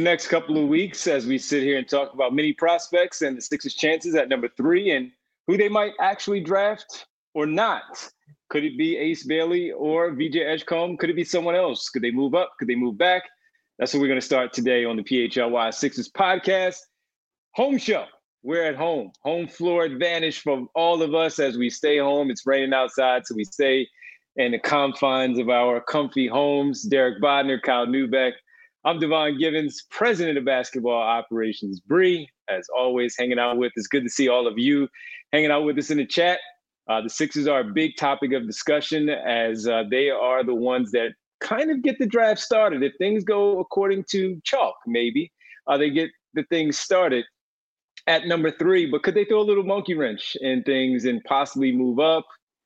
next couple of weeks as we sit here and talk about many prospects and the Sixers' chances at number 3 and who they might actually draft or not. Could it be Ace Bailey or VJ Edgecombe? Could it be someone else? Could they move up? Could they move back? That's what we're going to start today on the PHLY Sixers podcast. Home show. We're at home. Home floor advantage for all of us as we stay home. It's raining outside, so we stay in the confines of our comfy homes. Derek Bodner, Kyle Neubeck. I'm Devon Givens, president of basketball operations. Bree, as always, hanging out with us. Good to see all of you hanging out with us in the chat. The Sixers are a big topic of discussion as they are the ones that kind of get the draft started. If things go according to chalk, maybe they get the things started at number 3. But could they throw a little monkey wrench in things and possibly move up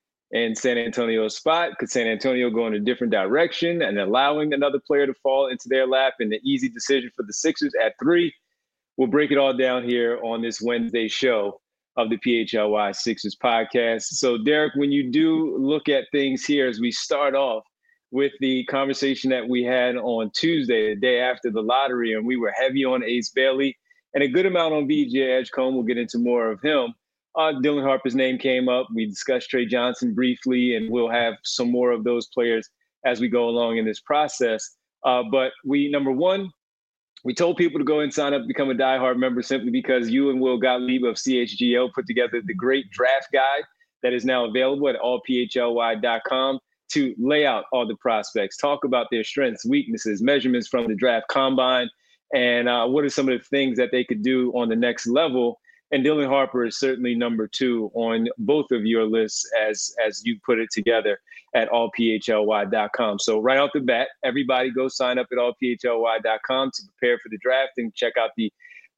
in San Antonio's spot? Could San Antonio go in a different direction and allowing another player to fall into their lap and the easy decision for the Sixers at 3? We'll break it all down here on this Wednesday show of the PHLY Sixers podcast. So, Derek, when you do look at things here, as we start off with the conversation that we had on Tuesday, the day after the lottery, and we were heavy on Ace Bailey and a good amount on VJ Edgecombe. We'll get into more of him. Dylan Harper's name came up. We discussed Trey Johnson briefly, and we'll have some more of those players as we go along in this process. But number one, we told people to go and sign up, become a diehard member simply because you and Will Gottlieb of CHGO put together the great draft guide that is now available at allphly.com to lay out all the prospects, talk about their strengths, weaknesses, measurements from the draft combine, and what are some of the things that they could do on the next level. And Dylan Harper is certainly number 2 on both of your lists as you put it together at allphly.com. So right off the bat, everybody go sign up at allphly.com to prepare for the draft and check out the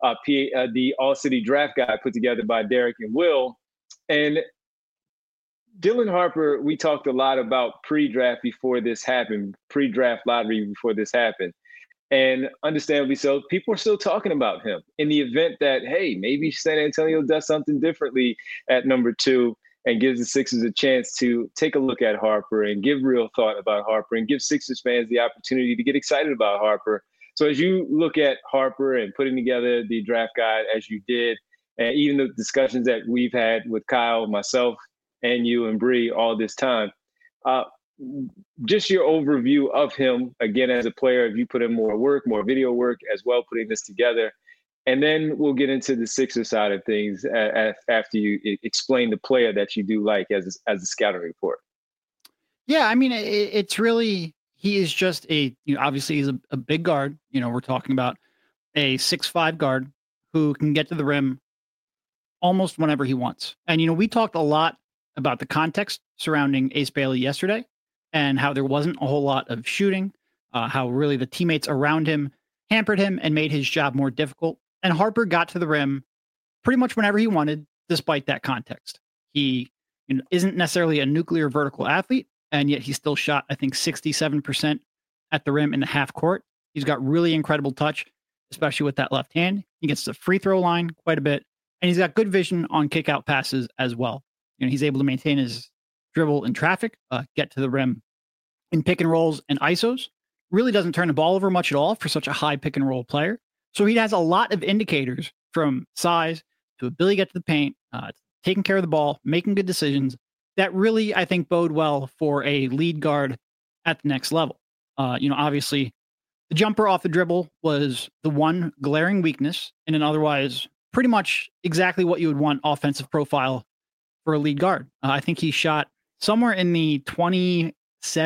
All-City Draft Guide put together by Derek and Will. And Dylan Harper, we talked a lot about pre-draft before this happened, pre-draft lottery before this happened. And understandably so, people are still talking about him in the event that, hey, maybe San Antonio does something differently at number 2 and gives the Sixers a chance to take a look at Harper and give real thought about Harper and give Sixers fans the opportunity to get excited about Harper. So as you look at Harper and putting together the draft guide as you did, and even the discussions that we've had with Kyle, myself, and you and Bree all this time, just your overview of him, again, as a player, if you put in more work, more video work as well, putting this together. And then we'll get into the Sixer side of things after you explain the player that you do like as a scouting report. Yeah, I mean, it's really, he is just obviously he's a big guard. We're talking about a 6'5" guard who can get to the rim almost whenever he wants. And, we talked a lot about the context surrounding Ace Bailey yesterday and how there wasn't a whole lot of shooting, how really the teammates around him hampered him and made his job more difficult. And Harper got to the rim pretty much whenever he wanted, despite that context. He isn't necessarily a nuclear vertical athlete, and yet he still shot, I think, 67% at the rim in the half court. He's got really incredible touch, especially with that left hand. He gets the free throw line quite a bit, and he's got good vision on kick out passes as well. He's able to maintain his dribble in traffic, get to the rim in pick and rolls and ISOs. Really doesn't turn the ball over much at all for such a high pick and roll player. So he has a lot of indicators from size to ability to get to the paint, taking care of the ball, making good decisions that really, I think, bode well for a lead guard at the next level. Obviously, the jumper off the dribble was the one glaring weakness in an otherwise pretty much exactly what you would want offensive profile for a lead guard. I think he shot somewhere in the 27%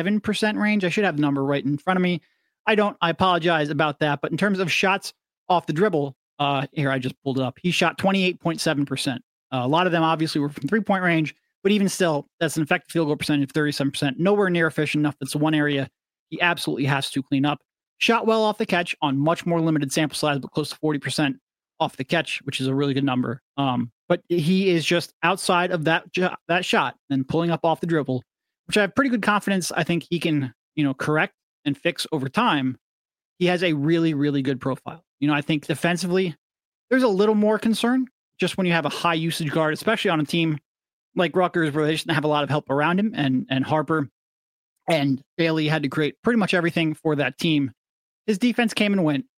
range. I should have the number right in front of me. I apologize about that. But in terms of shots off the dribble, here, I just pulled it up. He shot 28.7%. A lot of them obviously were from 3-point range, but even still, that's an effective field goal percentage of 37%. Nowhere near efficient enough. That's the one area he absolutely has to clean up. Shot well off the catch on much more limited sample size, but close to 40% off the catch, which is a really good number. But he is just outside of that shot and pulling up off the dribble, which I have pretty good confidence I think he can, correct and fix over time. He has a really, really good profile. I think defensively, there's a little more concern just when you have a high usage guard, especially on a team like Rutgers where they just have a lot of help around him, and Harper and Bailey had to create pretty much everything for that team. His defense came and went,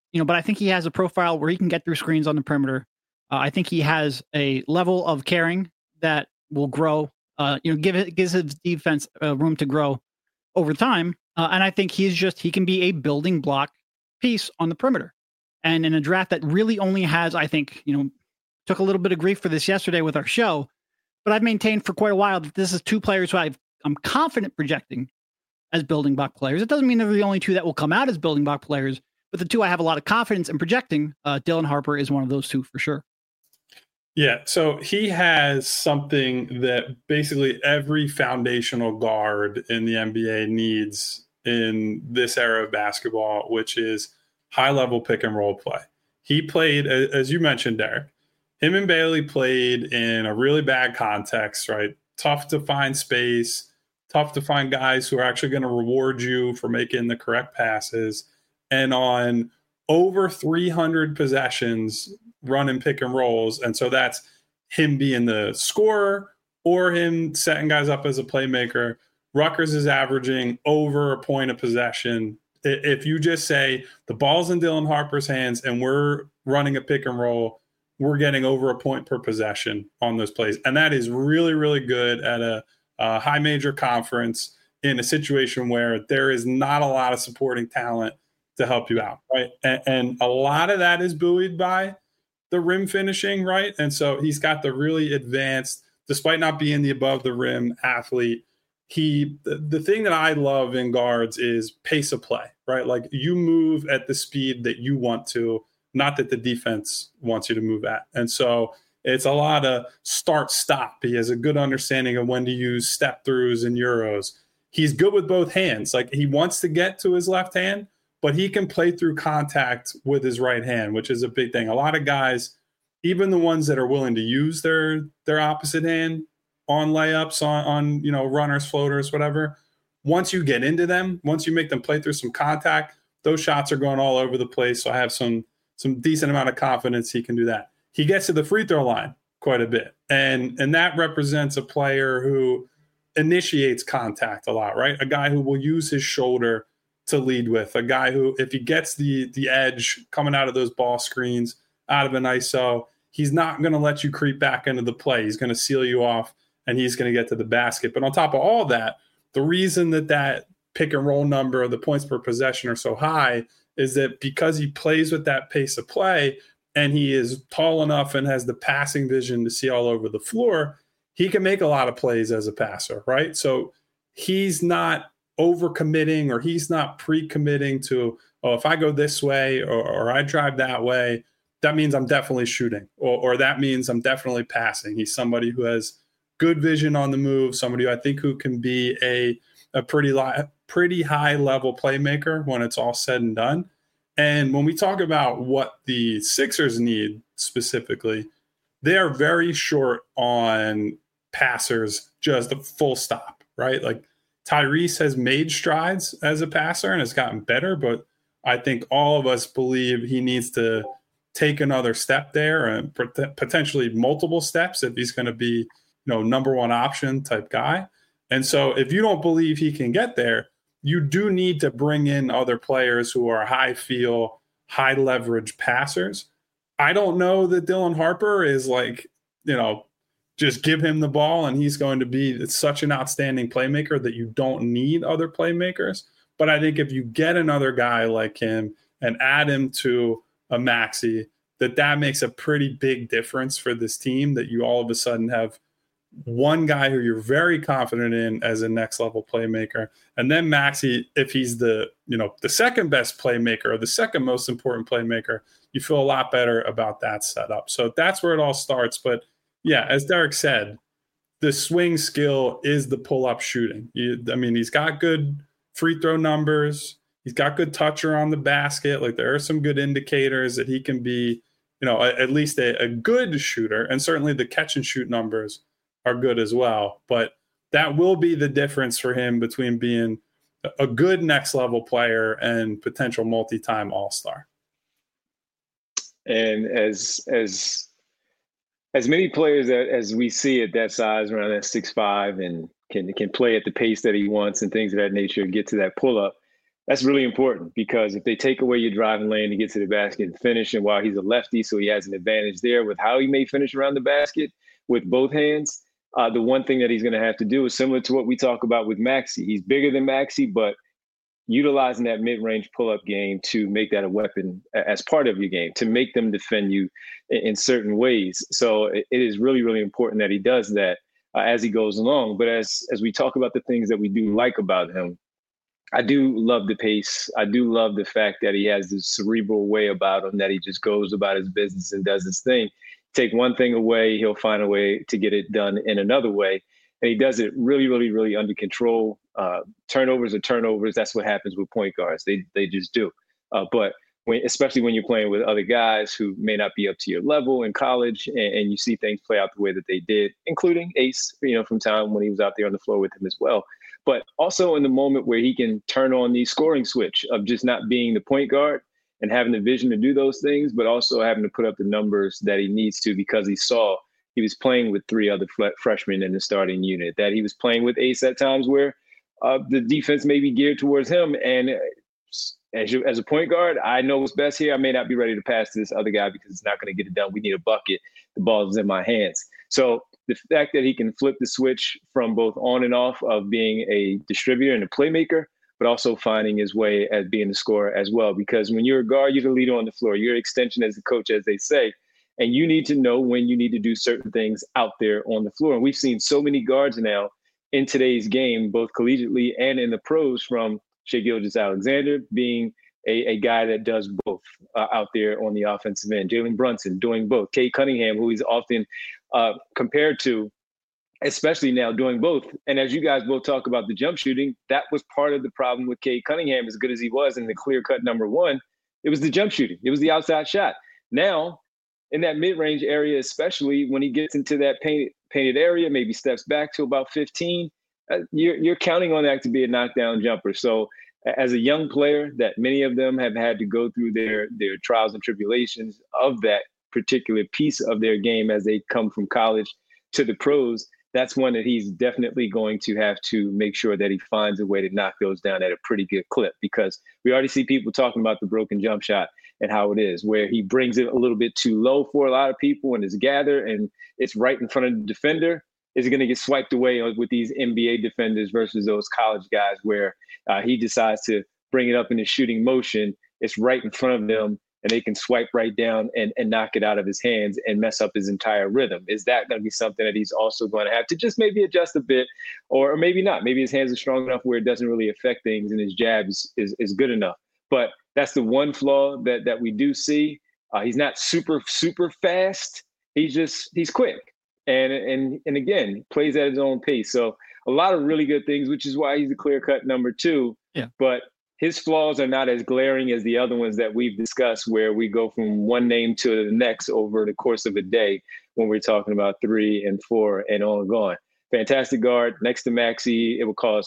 but I think he has a profile where he can get through screens on the perimeter. I think he has a level of caring that will grow. Gives his defense room to grow over time. And I think he can be a building block piece on the perimeter. And in a draft that really only has, I think, took a little bit of grief for this yesterday with our show, but I've maintained for quite a while that this is two players who I'm confident projecting as building block players. It doesn't mean they're the only two that will come out as building block players, but the two I have a lot of confidence in projecting. Dylan Harper is one of those two for sure. Yeah, so he has something that basically every foundational guard in the NBA needs in this era of basketball, which is high-level pick-and-roll play. He played, as you mentioned, Derek, him and Bailey played in a really bad context, right? Tough to find space, tough to find guys who are actually going to reward you for making the correct passes. And on over 300 possessions running pick and rolls. And so that's him being the scorer or him setting guys up as a playmaker. Rutgers is averaging over a point of possession. If you just say the ball's in Dylan Harper's hands and we're running a pick and roll, we're getting over a point per possession on those plays. And that is really, really good at a high major conference in a situation where there is not a lot of supporting talent to help you out, right? And a lot of that is buoyed by the rim finishing, right? And so he's got the really advanced, despite not being the above the rim athlete, the thing that I love in guards is pace of play, right? Like you move at the speed that you want to, not that the defense wants you to move at. And so it's a lot of start stop. He has a good understanding of when to use step throughs and euros. He's good with both hands. Like he wants to get to his left hand, but he can play through contact with his right hand, which is a big thing. A lot of guys, even the ones that are willing to use their opposite hand on layups, on runners, floaters, whatever, once you get into them, once you make them play through some contact, those shots are going all over the place. So I have some decent amount of confidence he can do that. He gets to the free throw line quite a bit. And that represents a player who initiates contact a lot, right? A guy who will use his shoulder to lead with, a guy who, if he gets the edge coming out of those ball screens, out of an ISO, he's not going to let you creep back into the play. He's going to seal you off and he's going to get to the basket. But on top of all that, the reason that pick and roll number, the points per possession are so high is that because he plays with that pace of play and he is tall enough and has the passing vision to see all over the floor, he can make a lot of plays as a passer, right? So he's not overcommitting or he's not pre-committing to, if I go this way or I drive that way, that means I'm definitely shooting or that means I'm definitely passing. He's somebody who has good vision on the move, somebody who I think who can be a pretty high level playmaker when it's all said and done. And when we talk about what the Sixers need specifically, they are very short on passers, just a full stop, right? Like Tyrese has made strides as a passer and has gotten better, but I think all of us believe he needs to take another step there and potentially multiple steps if he's going to be, number one option type guy. And so if you don't believe he can get there, you do need to bring in other players who are high feel, high leverage passers. I don't know that Dylan Harper is like, just give him the ball and he's going to be such an outstanding playmaker that you don't need other playmakers. But I think if you get another guy like him and add him to a Maxey, that makes a pretty big difference for this team, that you all of a sudden have one guy who you're very confident in as a next level playmaker. And then Maxey, if he's the second best playmaker or the second most important playmaker, you feel a lot better about that setup. So that's where it all starts. But yeah, as Derek said, the swing skill is the pull-up shooting. He's got good free throw numbers. He's got good touch around the basket. Like there are some good indicators that he can be, at least a good shooter. And certainly the catch and shoot numbers are good as well. But that will be the difference for him between being a good next level player and potential multi-time all-star. And as many players as we see at that size, around that 6'5", and can play at the pace that he wants and things of that nature, get to that pull up. That's really important because if they take away your driving lane to get to the basket and finish, and while he's a lefty, so he has an advantage there with how he may finish around the basket with both hands. The one thing that he's going to have to do is similar to what we talk about with Maxey. He's bigger than Maxey, but utilizing that mid-range pull-up game to make that a weapon as part of your game, to make them defend you in certain ways. So it is really, really important that he does that as he goes along. But as we talk about the things that we do like about him, I do love the pace. I do love the fact that he has this cerebral way about him, that he just goes about his business and does his thing. Take one thing away, he'll find a way to get it done in another way. And he does it really, really, really under control. Turnovers are turnovers. That's what happens with point guards. They just do. But especially when you're playing with other guys who may not be up to your level in college, and you see things play out the way that they did, including Ace, from time when he was out there on the floor with him as well. But also in the moment where he can turn on the scoring switch of just not being the point guard and having the vision to do those things, but also having to put up the numbers that he needs to, because he was playing with 3 other freshmen in the starting unit, that he was playing with Ace at times where the defense may be geared towards him. And as a point guard, I know what's best here. I may not be ready to pass to this other guy because it's not going to get it done. We need a bucket. The ball is in my hands. So the fact that he can flip the switch from both on and off of being a distributor and a playmaker, but also finding his way as being a scorer as well. Because when you're a guard, you're the leader on the floor. You're an extension as a coach, as they say. And you need to know when you need to do certain things out there on the floor. And we've seen so many guards now in today's game, both collegiately and in the pros, from Shai Gilgeous-Alexander being a guy that does both out there on the offensive end. Jalen Brunson doing both. Cade Cunningham, who he's often compared to, especially now doing both. And as you guys both talk about the jump shooting, that was part of the problem with Cade Cunningham, as good as he was in the clear-cut number one. It was the jump shooting. It was the outside shot. Now, in that mid-range area, especially when he gets into that painted area, maybe steps back to about 15, you're counting on that to be a knockdown jumper. So as a young player, that many of them have had to go through their trials and tribulations of that particular piece of their game as they come from college to the pros, that's one that he's definitely going to have to make sure that he finds a way to knock those down at a pretty good clip, because we already see people talking about the broken jump shot and how it is, where he brings it a little bit too low for a lot of people and is gathered and it's right in front of the defender. Is going to get swiped away with these NBA defenders versus those college guys, where he decides to bring it up in his shooting motion. It's right in front of them, and they can swipe right down and knock it out of his hands and mess up his entire rhythm. Is that going to be something that he's also going to have to just maybe adjust a bit, or maybe not? Maybe his hands are strong enough where it doesn't really affect things and his jab is good enough. But that's the one flaw that we do see. He's not super, super fast. He's quick. And again, plays at his own pace. So a lot of really good things, which is why he's a clear-cut number 2. Yeah. But his flaws are not as glaring as the other ones that we've discussed, where we go from one name to the next over the course of a day when we're talking about 3 and 4 and on and gone. Fantastic guard next to Maxey.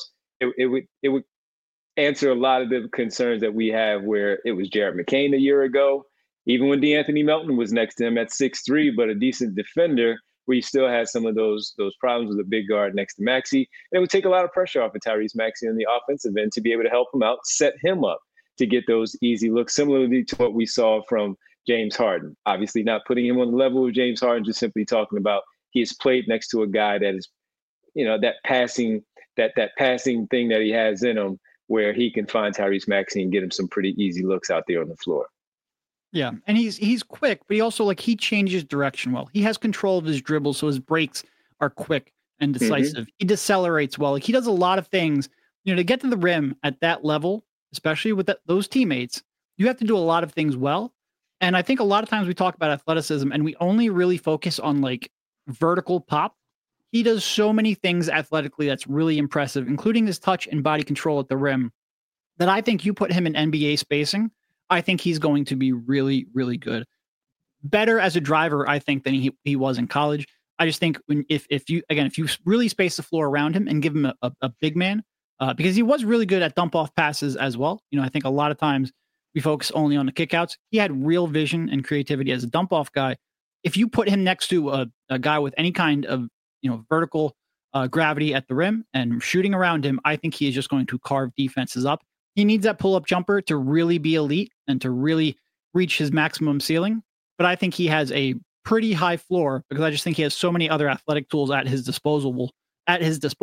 It would answer a lot of the concerns that we have, where it was Jared McCain a year ago, even when DeAnthony Melton was next to him at 6'3", but a decent defender, where you still had some of those problems with a big guard next to Maxey. And it would take a lot of pressure off of Tyrese Maxey on the offensive end to be able to help him out, set him up to get those easy looks, similarly to what we saw from James Harden. Obviously not putting him on the level of James Harden, just simply talking about he has played next to a guy that is, that passing thing that he has in him, where he can find Tyrese Maxey and get him some pretty easy looks out there on the floor. Yeah, and he's quick, but he also, he changes direction well. He has control of his dribble, so his breaks are quick and decisive. He decelerates well. He does a lot of things. To get to the rim at that level, especially with those teammates, you have to do a lot of things well. And I think a lot of times we talk about athleticism and we only really focus on vertical pop. He does so many things athletically that's really impressive, including his touch and body control at the rim, that I think you put him in NBA spacing, I think he's going to be really, really good. Better as a driver, I think, than he was in college. I just think if you really space the floor around him and give him a big man, because he was really good at dump off passes as well. I think a lot of times we focus only on the kickouts. He had real vision and creativity as a dump off guy. If you put him next to a guy with any kind of vertical gravity at the rim and shooting around him, I think he is just going to carve defenses up. He needs that pull-up jumper to really be elite and to really reach his maximum ceiling. But I think he has a pretty high floor because I just think he has so many other athletic tools at his disposal that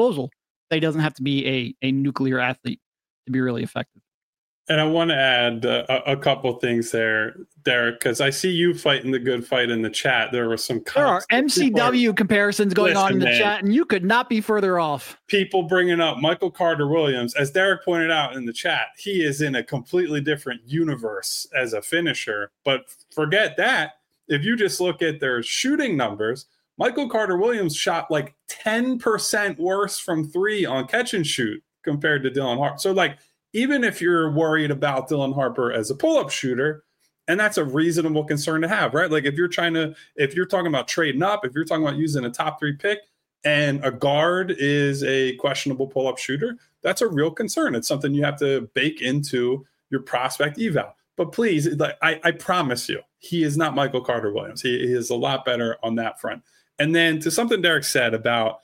he doesn't have to be a nuclear athlete to be really effective. And I want to add a couple things there, Derek, because I see you fighting the good fight in the chat. There were some there are MCW comparisons going on in the chat, and you could not be further off. People bringing up Michael Carter Williams, as Derek pointed out in the chat, he is in a completely different universe as a finisher. But forget that. If you just look at their shooting numbers, Michael Carter Williams shot like 10% worse from three on catch and shoot compared to Dylan Harper. So like, even if you're worried about Dylan Harper as a pull-up shooter, and that's a reasonable concern to have, right? Like if you're talking about trading up, if you're talking about using a top 3 pick and a guard is a questionable pull-up shooter, that's a real concern. It's something you have to bake into your prospect eval. But please, like I promise you, he is not Michael Carter Williams. He is a lot better on that front. And then to something Derek said about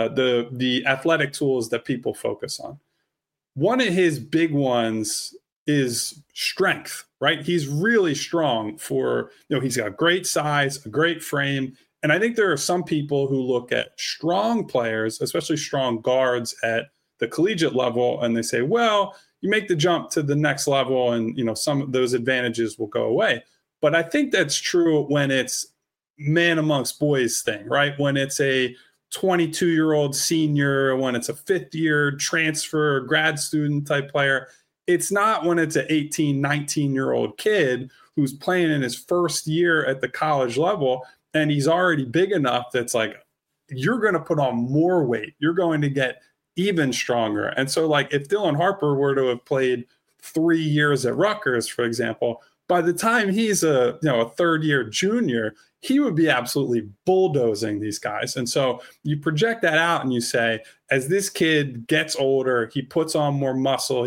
the athletic tools that people focus on. One of his big ones is strength, right? He's really strong he's got great size, a great frame. And I think there are some people who look at strong players, especially strong guards at the collegiate level, and they say, well, you make the jump to the next level and, some of those advantages will go away. But I think that's true when it's man amongst boys thing, right? When it's a 22-year-old senior, when it's a fifth-year transfer, grad student type player. It's not when it's an 18, 19-year-old kid who's playing in his first year at the college level, and he's already big enough that's like, you're going to put on more weight. You're going to get even stronger. And so, like, if Dylan Harper were to have played 3 years at Rutgers, for example, by the time he's a third-year junior, he would be absolutely bulldozing these guys. And so you project that out and you say, as this kid gets older, he puts on more muscle,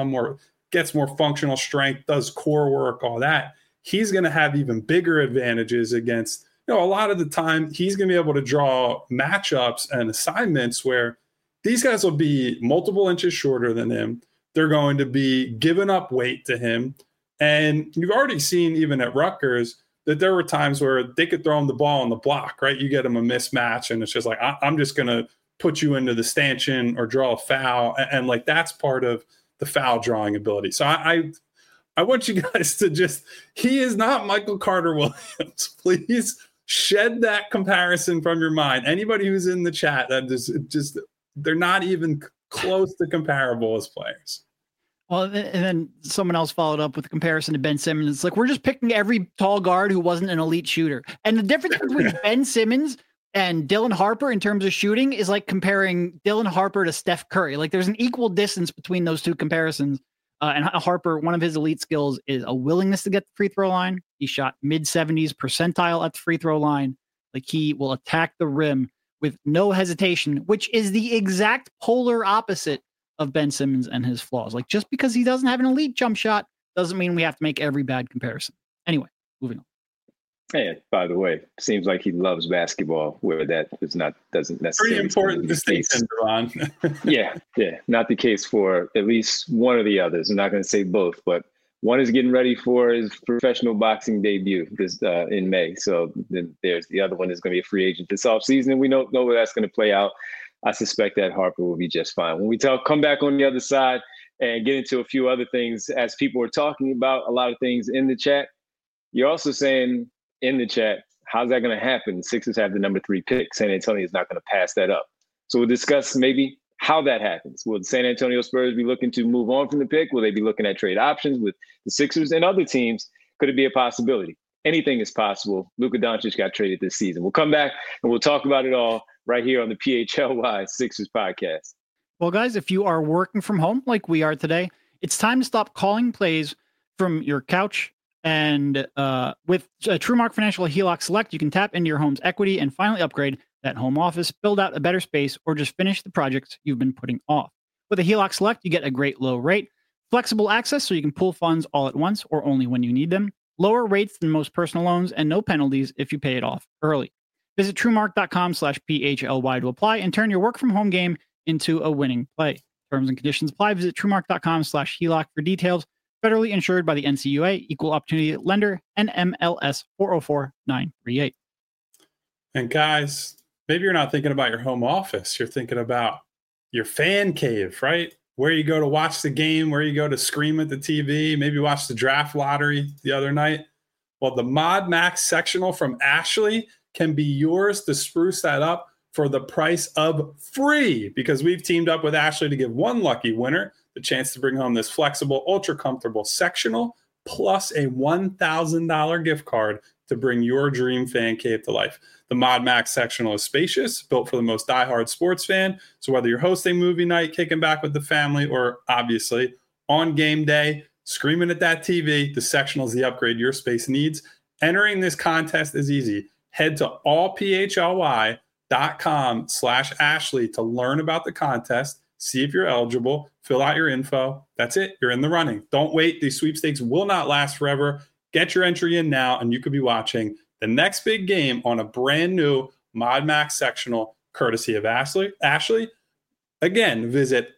gets more functional strength, does core work, all that, he's going to have even bigger advantages against, a lot of the time he's going to be able to draw matchups and assignments where these guys will be multiple inches shorter than him. They're going to be giving up weight to him. And you've already seen even at Rutgers that there were times where they could throw him the ball on the block, right? You get him a mismatch and it's just like, I'm just going to put you into the stanchion or draw a foul. And like, that's part of the foul drawing ability. So I want you guys to he is not Michael Carter Williams. Please shed that comparison from your mind. Anybody who's in the chat, that they're not even close to comparable as players. Well, and then someone else followed up with a comparison to Ben Simmons. It's like, we're just picking every tall guard who wasn't an elite shooter. And the difference between Ben Simmons and Dylan Harper in terms of shooting is like comparing Dylan Harper to Steph Curry. Like, there's an equal distance between those two comparisons. And Harper, one of his elite skills is a willingness to get the free throw line. He shot mid-70s percentile at the free throw line. Like, he will attack the rim with no hesitation, which is the exact polar opposite of Ben Simmons and his flaws. Like, just because he doesn't have an elite jump shot doesn't mean we have to make every bad comparison. Anyway, moving on. And by the way, seems like he loves basketball, where that doesn't necessarily. Pretty important distinction, Ron. yeah, not the case for at least one of the others. I'm not going to say both, but one is getting ready for his professional boxing debut in May. So then there's the other one is going to be a free agent this offseason, and we don't know where that's going to play out. I suspect that Harper will be just fine. When we come back on the other side and get into a few other things, as people are talking about a lot of things in the chat, you're also saying in the chat, how's that going to happen? Sixers have the number 3 pick. San Antonio is not going to pass that up. So we'll discuss maybe how that happens. Will the San Antonio Spurs be looking to move on from the pick? Will they be looking at trade options with the Sixers and other teams? Could it be a possibility? Anything is possible. Luka Doncic got traded this season. We'll come back and we'll talk about it all right here on the PHLY Sixers podcast. Well, guys, if you are working from home like we are today, it's time to stop calling plays from your couch. And with TrueMark Financial HELOC Select, you can tap into your home's equity and finally upgrade that home office, build out a better space, or just finish the projects you've been putting off. With a HELOC Select, you get a great low rate, flexible access so you can pull funds all at once or only when you need them, lower rates than most personal loans, and no penalties if you pay it off early. Visit TrueMark.com/PHLY to apply and turn your work from home game into a winning play. Terms and conditions apply. Visit truemark.com/HELOC for details. Federally insured by the NCUA, Equal Opportunity Lender, NMLS 404938. And guys, maybe you're not thinking about your home office. You're thinking about your fan cave, right? Where you go to watch the game, where you go to scream at the TV, maybe watch the draft lottery the other night. Well, the Mod Max sectional from Ashley can be yours to spruce that up for the price of free, because we've teamed up with Ashley to give one lucky winner the chance to bring home this flexible, ultra comfortable sectional plus a $1,000 gift card to bring your dream fan cave to life. The Mod Max sectional is spacious, built for the most diehard sports fan. So whether you're hosting movie night, kicking back with the family, or obviously on game day, screaming at that TV, the sectional is the upgrade your space needs. Entering this contest is easy. Head to allphly.com/Ashley to learn about the contest, see if you're eligible, fill out your info. That's it. You're in the running. Don't wait. These sweepstakes will not last forever. Get your entry in now, and you could be watching the next big game on a brand new Mod Max sectional, courtesy of Ashley. Again, visit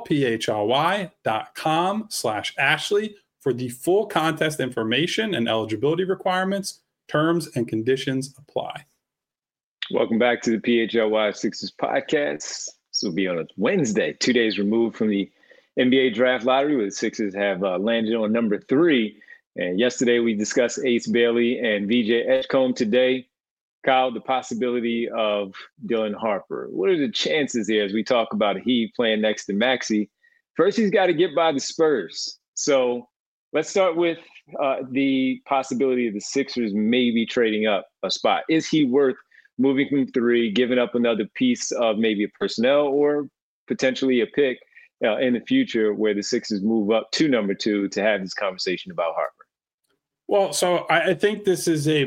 allphly.com/Ashley for the full contest information and eligibility requirements. Terms and conditions apply. Welcome back to the PHLY Sixers podcast. This will be on a Wednesday, 2 days removed from the NBA draft lottery, where the Sixers have landed on number 3. And yesterday we discussed Ace Bailey and VJ Edgecombe. Today, Kyle, the possibility of Dylan Harper. What are the chances here as we talk about he playing next to Maxey? First, he's got to get by the Spurs. So let's start with the possibility of the Sixers maybe trading up a spot. Is he worth moving from 3, giving up another piece of maybe a personnel or potentially a pick in the future where the Sixers move up to number 2 to have this conversation about Harper? Well, so I think this is a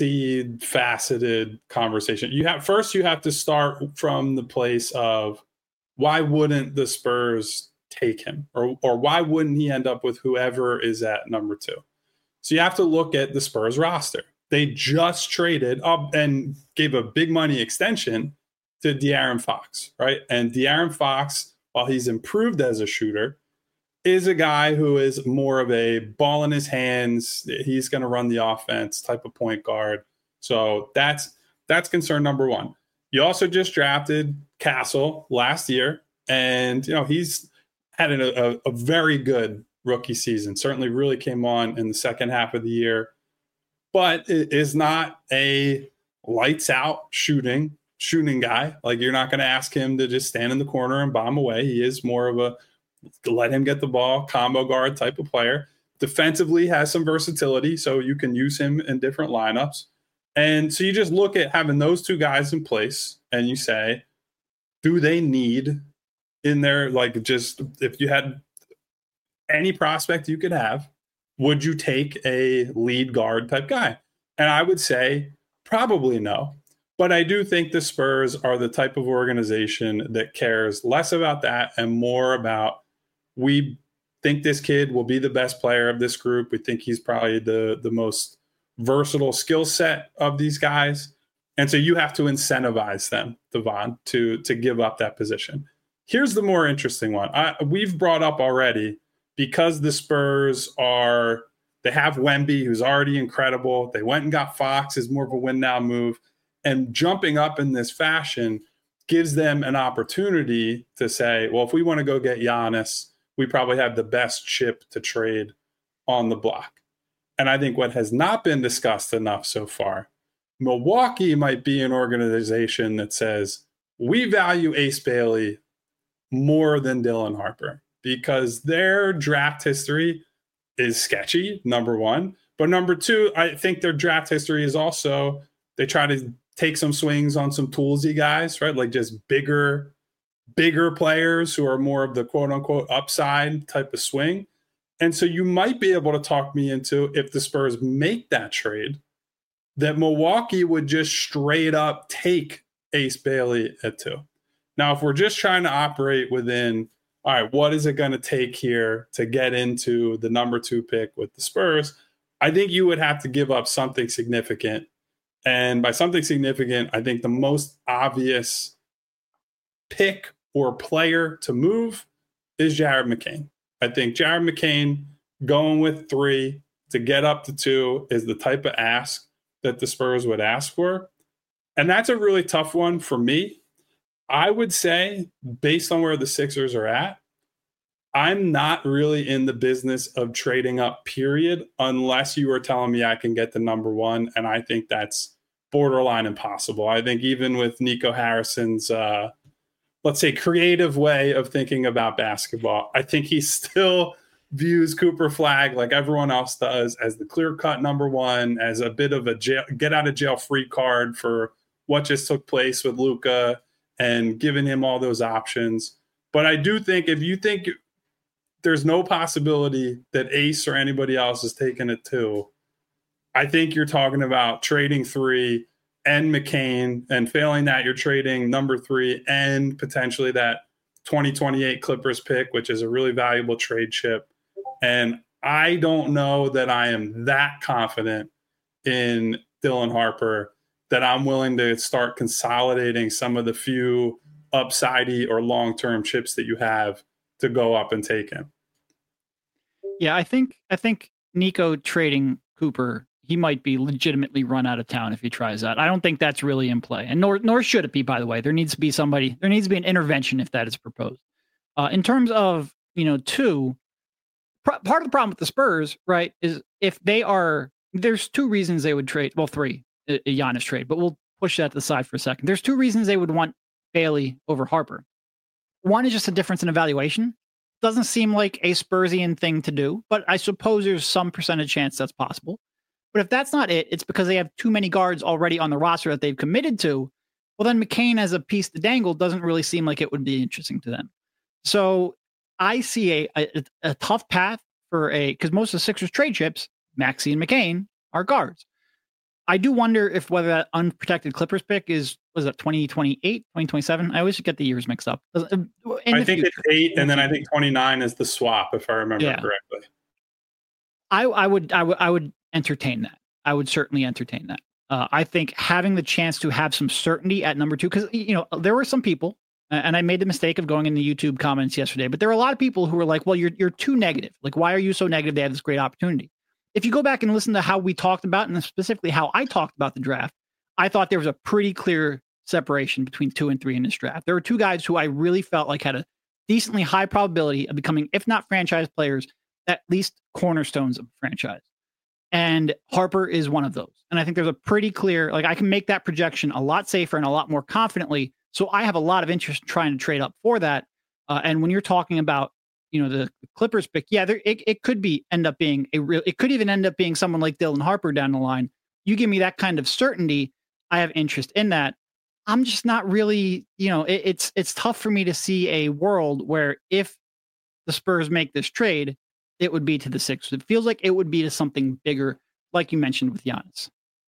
multifaceted conversation. You have to start from the place of why wouldn't the Spurs take him, or why wouldn't he end up with whoever is at number 2? So you have to look at the Spurs roster. They just traded up and gave a big money extension to De'Aaron Fox, right? And De'Aaron Fox, while he's improved as a shooter, is a guy who is more of a ball in his hands. He's going to run the offense type of point guard. So that's concern number 1. You also just drafted Castle last year, and he's had a very good rookie season. Certainly really came on in the second half of the year, but it is not a lights out shooting guy. Like, you're not going to ask him to just stand in the corner and bomb away. He is more of a let him get the ball, combo guard type of player. Defensively has some versatility, so you can use him in different lineups. And so you just look at having those 2 guys in place and you say, do they need in there, like, just if you had any prospect you could have, would you take a lead guard type guy? And I would say probably no. But I do think the Spurs are the type of organization that cares less about that and more about, we think this kid will be the best player of this group. We think he's probably the most versatile skill set of these guys. And so you have to incentivize them, Devon, to give up that position. Here's the more interesting one. We've brought up already, because the Spurs they have Wemby, who's already incredible. They went and got Fox, is more of a win now move. And jumping up in this fashion gives them an opportunity to say, well, if we want to go get Giannis, we probably have the best chip to trade on the block. And I think what has not been discussed enough so far, Milwaukee might be an organization that says, we value Ace Bailey more than Dylan Harper, because their draft history is sketchy, number 1. But number 2, I think their draft history is also, they try to take some swings on some toolsy guys, right? Like just bigger players who are more of the quote unquote upside type of swing. And so you might be able to talk me into, if the Spurs make that trade, that Milwaukee would just straight up take Ace Bailey at 2. Now, if we're just trying to operate within, all right, what is it going to take here to get into the number 2 pick with the Spurs? I think you would have to give up something significant. And by something significant, I think the most obvious pick or player to move is Jared McCain. I think Jared McCain going with 3 to get up to 2 is the type of ask that the Spurs would ask for. And that's a really tough one for me. I would say, based on where the Sixers are at, I'm not really in the business of trading up, period, unless you were telling me I can get the number 1. And I think that's borderline impossible. I think even with Nico Harrison's, let's say, creative way of thinking about basketball, I think he still views Cooper Flagg, like everyone else does, as the clear-cut number 1, as a bit of a get-out-of-jail-free card for what just took place with Luka and giving him all those options. But I do think if you think there's no possibility that Ace or anybody else is taking it 2, I think you're talking about trading 3 and McCain, and failing that, you're trading number 3 and potentially that 2028 Clippers pick, which is a really valuable trade chip. And I don't know that I am that confident in Dylan Harper that I'm willing to start consolidating some of the few upsidey or long-term chips that you have to go up and take him. Yeah, I think Nico trading Cooper, he might be legitimately run out of town if he tries that. I don't think that's really in play, and nor should it be. By the way, there needs to be an intervention if that is proposed. In terms of 2, part of the problem with the Spurs, right, is if there's 2 reasons they would trade. Well, 3, a Giannis trade, but we'll push that to the side for a second. There's 2 reasons they would want Bailey over Harper. One is just a difference in evaluation. Doesn't seem like a Spursian thing to do, but I suppose there's some percentage chance that's possible. But if that's not it, it's because they have too many guards already on the roster that they've committed to. Well, then McCain as a piece to dangle doesn't really seem like it would be interesting to them. So I see a tough path because most of the Sixers trade chips, Maxey and McCain, are guards. I do wonder if whether that unprotected Clippers pick was that 2028, 2027? I always get the years mixed up. I think it's 8, and then I think 29 is the swap, if I remember correctly. I would entertain that. I would certainly entertain that. I think having the chance to have some certainty at number 2, because there were some people, and I made the mistake of going in the YouTube comments yesterday, but there were a lot of people who were like, well, you're too negative. Like, why are you so negative? They have this great opportunity. If you go back and listen to how we talked about, and specifically how I talked about the draft, I thought there was a pretty clear separation between 2 and 3 in this draft. There were 2 guys who I really felt like had a decently high probability of becoming, if not franchise players, at least cornerstones of the franchise. And Harper is one of those. And I think there's a pretty clear, I can make that projection a lot safer and a lot more confidently. So I have a lot of interest in trying to trade up for that. And when you're talking about, the Clippers pick, it could end up being it could even end up being someone like Dylan Harper down the line. You give me that kind of certainty, I have interest in that. I'm just not really, it's tough for me to see a world where if the Spurs make this trade, it would be to the Sixers. It feels like it would be to something bigger, like you mentioned with Giannis.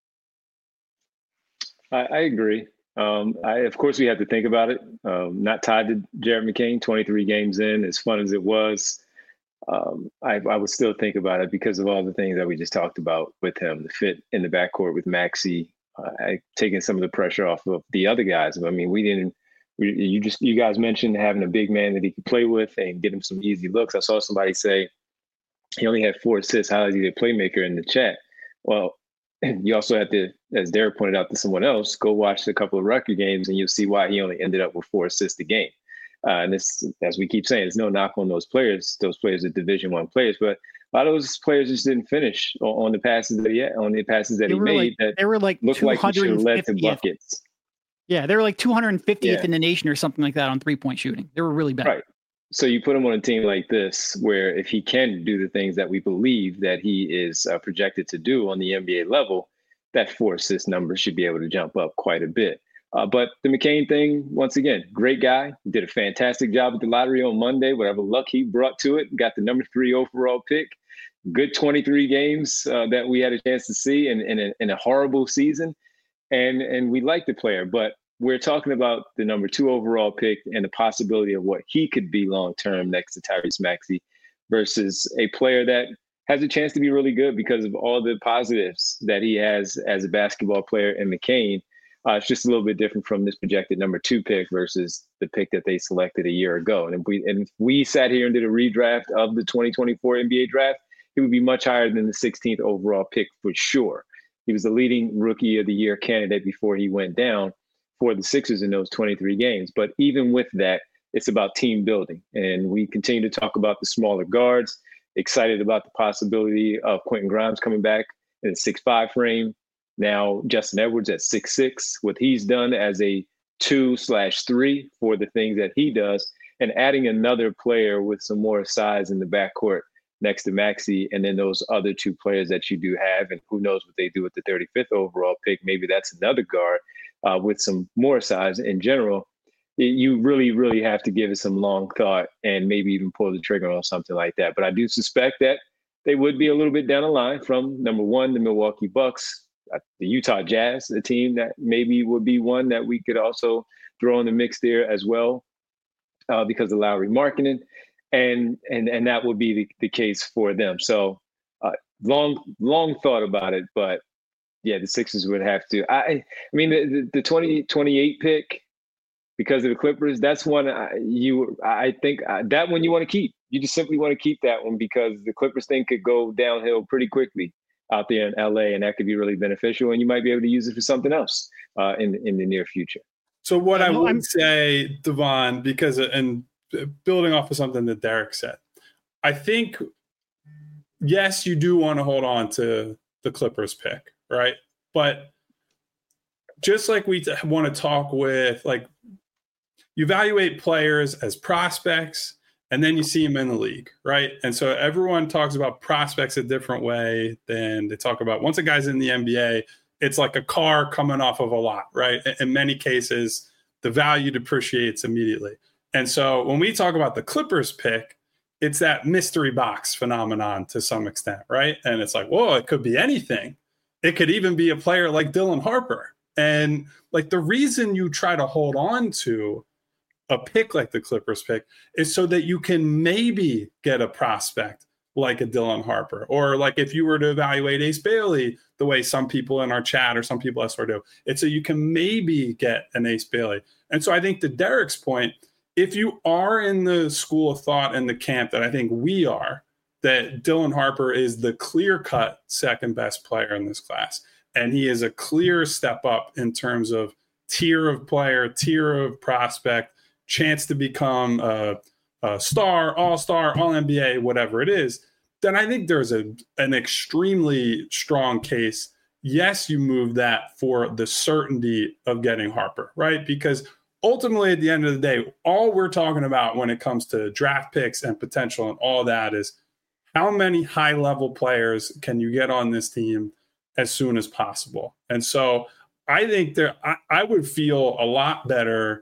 I agree. Of course, we have to think about it. Not tied to Jared McCain, 23 games in, as fun as it was. I would still think about it because of all the things that we just talked about with him, the fit in the backcourt with Maxey, taking some of the pressure off of the other guys. I mean, you guys mentioned having a big man that he could play with and get him some easy looks. I saw somebody say he only had 4 assists. How is he a playmaker in the chat? Well, you also have to, as Derek pointed out to someone else, go watch a couple of record games and you'll see why he only ended up with 4 assists a game. And this, as we keep saying, there's no knock on those players. Those players are Division I players, but a lot of those players just didn't finish on the passes that he made. They were like looked like he should have led to buckets. Yeah, they were like 250th in the nation or something like that on 3-point shooting. They were really bad. Right. So you put him on a team like this, where if he can do the things that we believe that he is projected to do on the NBA level, that 4 assist number should be able to jump up quite a bit. But the McCain thing, once again, great guy. Did a fantastic job at the lottery on Monday. Whatever luck he brought to it, got the number 3 overall pick. Good 23 games that we had a chance to see in a horrible season. And we like the player, but we're talking about the number 2 overall pick and the possibility of what he could be long-term next to Tyrese Maxey versus a player that has a chance to be really good because of all the positives that he has as a basketball player in McCain. It's just a little bit different from this projected number 2 pick versus the pick that they selected a year ago. And if we sat here and did a redraft of the 2024 NBA draft, he would be much higher than the 16th overall pick for sure. He was the leading rookie of the year candidate before he went down for the Sixers in those 23 games. But even with that, it's about team building. And we continue to talk about the smaller guards, excited about the possibility of Quentin Grimes coming back in the 6'5" frame. Now, Justin Edwards at 6'6", what he's done as a 2/3 for the things that he does, and adding another player with some more size in the backcourt next to Maxey, and then those other 2 players that you do have, and who knows what they do with the 35th overall pick. Maybe that's another guard with some more size in general. You really, really have to give it some long thought and maybe even pull the trigger on something like that. But I do suspect that they would be a little bit down the line from number 1, the Milwaukee Bucks, the Utah Jazz, a team that maybe would be one that we could also throw in the mix there as well because of Lauri Markkanen. And that would be the case for them. So long thought about it, but yeah, the Sixers would have to. I mean, the 2028 pick, because of the Clippers, that's one I think that one you want to keep. You just simply want to keep that one because the Clippers thing could go downhill pretty quickly out there in LA, and that could be really beneficial, and you might be able to use it for something else in the near future. So what I would say, Devon, because and building off of something that Derek said, I think, yes, you do want to hold on to the Clippers pick, right? But just like we want to talk with, like, you evaluate players as prospects and then you see them in the league, right? And so everyone talks about prospects a different way than they talk about once a guy's in the NBA, it's like a car coming off of a lot, right? In many cases, the value depreciates immediately. And so when we talk about the Clippers pick, it's that mystery box phenomenon to some extent, right? And it's like, whoa, it could be anything. It could even be a player like Dylan Harper. And like the reason you try to hold on to a pick like the Clippers pick is so that you can maybe get a prospect like a Dylan Harper, or like if you were to evaluate Ace Bailey the way some people in our chat or some people elsewhere do, it's so you can maybe get an Ace Bailey. And so I think to Derek's point, if you are in the school of thought and the camp that I think we are, that Dylan Harper is the clear-cut second best player in this class, and he is a clear step up in terms of tier of player, tier of prospect, chance to become a star, all-star, all-NBA, whatever it is, then I think there's an extremely strong case. Yes, you move that for the certainty of getting Harper, right? Because ultimately, at the end of the day, all we're talking about when it comes to draft picks and potential and all that is how many high-level players can you get on this team as soon as possible. And so I think I would feel a lot better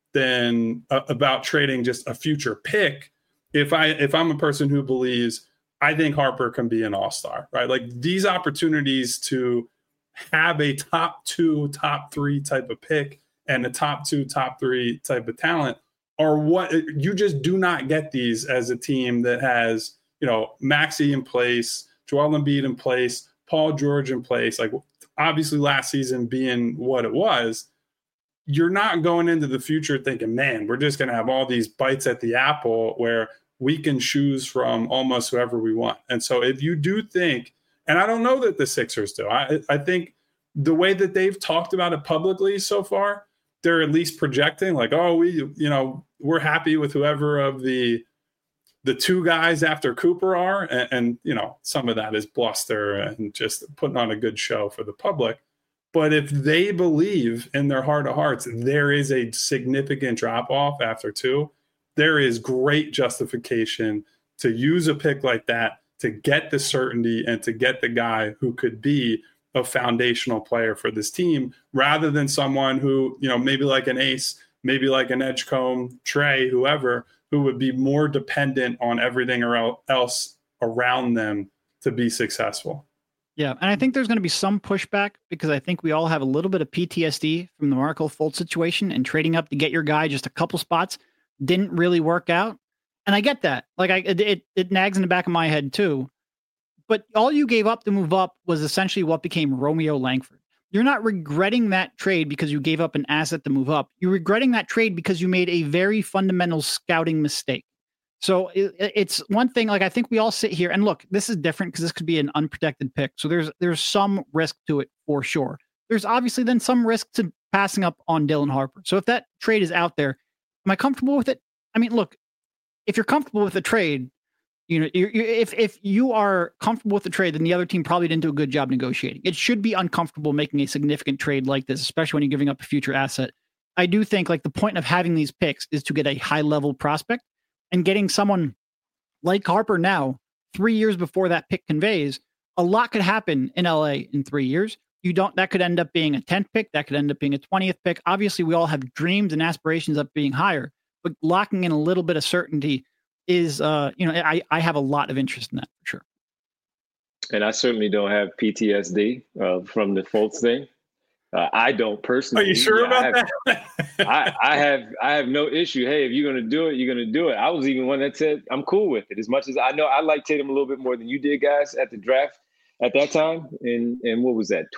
than about trading just a future pick if I'm a person who believes I think Harper can be an all-star, right? Like these opportunities to have a top 2, top 3 type of pick and a top 2, top 3 type of talent are what you just do not get these as a team that has, you know, Maxey in place, Joel Embiid in place, Paul George in place. Like obviously last season being what it was, you're not going into the future thinking, man, we're just going to have all these bites at the apple where we can choose from almost whoever we want. And so if you do think, and I don't know that the Sixers do, I think the way that they've talked about it publicly so far, they're at least projecting like, oh, we're happy with whoever of the 2 guys after Cooper are. And, you know, some of that is bluster and just putting on a good show for the public. But if they believe in their heart of hearts, there is a significant drop off after 2, there is great justification to use a pick like that to get the certainty and to get the guy who could be a foundational player for this team rather than someone who, you know, maybe like an Ace, maybe like an Edgecombe, Trey, whoever, who would be more dependent on everything else around them to be successful. Yeah, and I think there's going to be some pushback because I think we all have a little bit of PTSD from the Markelle Fultz situation, and trading up to get your guy just a couple spots didn't really work out. And I get that. Like it nags in the back of my head too. But all you gave up to move up was essentially what became Romeo Langford. you're not regretting that trade because you gave up an asset to move up. You're regretting that trade because you made a very fundamental scouting mistake. So it's one thing, like I think we all sit here and look, this is different because this could be an unprotected pick. So there's some risk to it for sure. There's obviously then some risk to passing up on Dylan Harper. So if that trade is out there, am I comfortable with it? I mean, look, if you're comfortable with the trade, if you are comfortable with the trade, then the other team probably didn't do a good job negotiating. It should be uncomfortable making a significant trade like this, especially when you're giving up a future asset. I do think like the point of having these picks is to get a high level prospect, and getting someone like Harper now, 3 years before that pick conveys, a lot could happen in LA in 3 years. That could end up being a 10th pick. That could end up being a 20th pick. Obviously, we all have dreams and aspirations of being higher, but locking in a little bit of certainty is, I have a lot of interest in that for sure. And I certainly don't have PTSD from the Fultz thing. I don't personally. Are you sure about that? I have no issue. Hey, if you're going to do it, you're going to do it. I was even one that said I'm cool with it. As much as I know I like Tatum a little bit more than you did, guys, at the draft at that time. And what was that?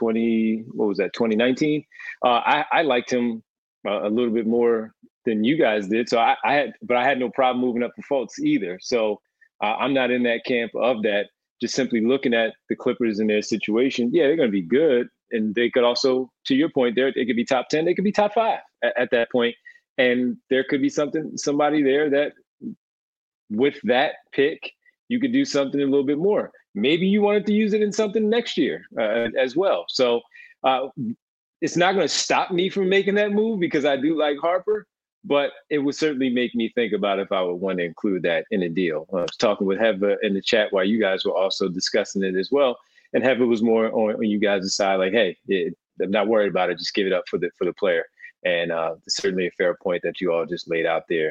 2019. I liked him a little bit more than you guys did. So I had no problem moving up for Fultz either. So I'm not in that camp of that. Just simply looking at the Clippers and their situation, yeah, they're going to be good. And they could also, to your point, they could be top 10. They could be top 5 at that point. And there could be somebody there that with that pick, you could do something a little bit more. Maybe you wanted to use it in something next year as well. So it's not going to stop me from making that move because I do like Harper, but it would certainly make me think about if I would want to include that in a deal. I was talking with Heva in the chat while you guys were also discussing it as well. And Heva was more on you guys' side, like, hey, I'm not worried about it. Just give it up for the player. And it's certainly a fair point that you all just laid out there.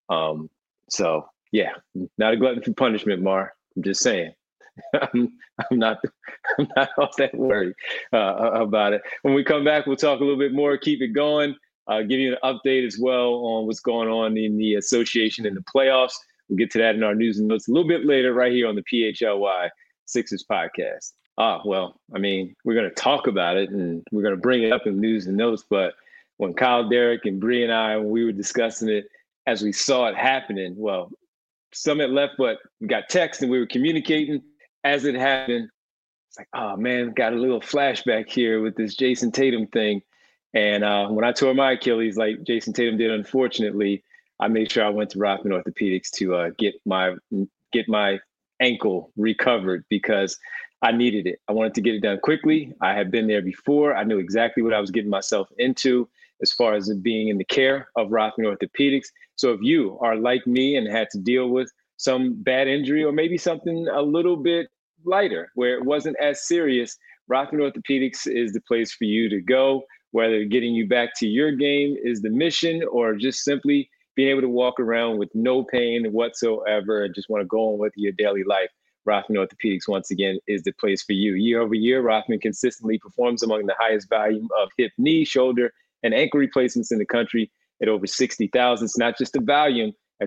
So, yeah, not a glutton for punishment, Mar. I'm just saying. I'm not all that worried about it. When we come back, we'll talk a little bit more, keep it going, give you an update as well on what's going on in the association and the playoffs. We'll get to that in our news and notes a little bit later right here on the PHLY Sixers podcast. Well, I mean, we're going to talk about it and we're going to bring it up in news and notes. But when Kyle, Derek, and Bree and I, when we were discussing it, as we saw it happening, well, some had left, but we got text and we were communicating as it happened. It's like, oh, man, got a little flashback here with this Jason Tatum thing. And when I tore my Achilles, like Jason Tatum did, unfortunately, I made sure I went to Rothman Orthopedics to get my ankle recovered because I needed it. I wanted to get it done quickly. I had been there before. I knew exactly what I was getting myself into as far as it being in the care of Rothman Orthopedics. So if you are like me and had to deal with some bad injury or maybe something a little bit lighter where it wasn't as serious, Rothman Orthopedics is the place for you to go, whether getting you back to your game is the mission or just simply being able to walk around with no pain whatsoever and just want to go on with your daily life. Rothman Orthopedics, once again, is the place for you. Year over year, Rothman consistently performs among the highest volume of hip, knee, shoulder, and ankle replacements in the country at over 60,000. It's not just the volume, at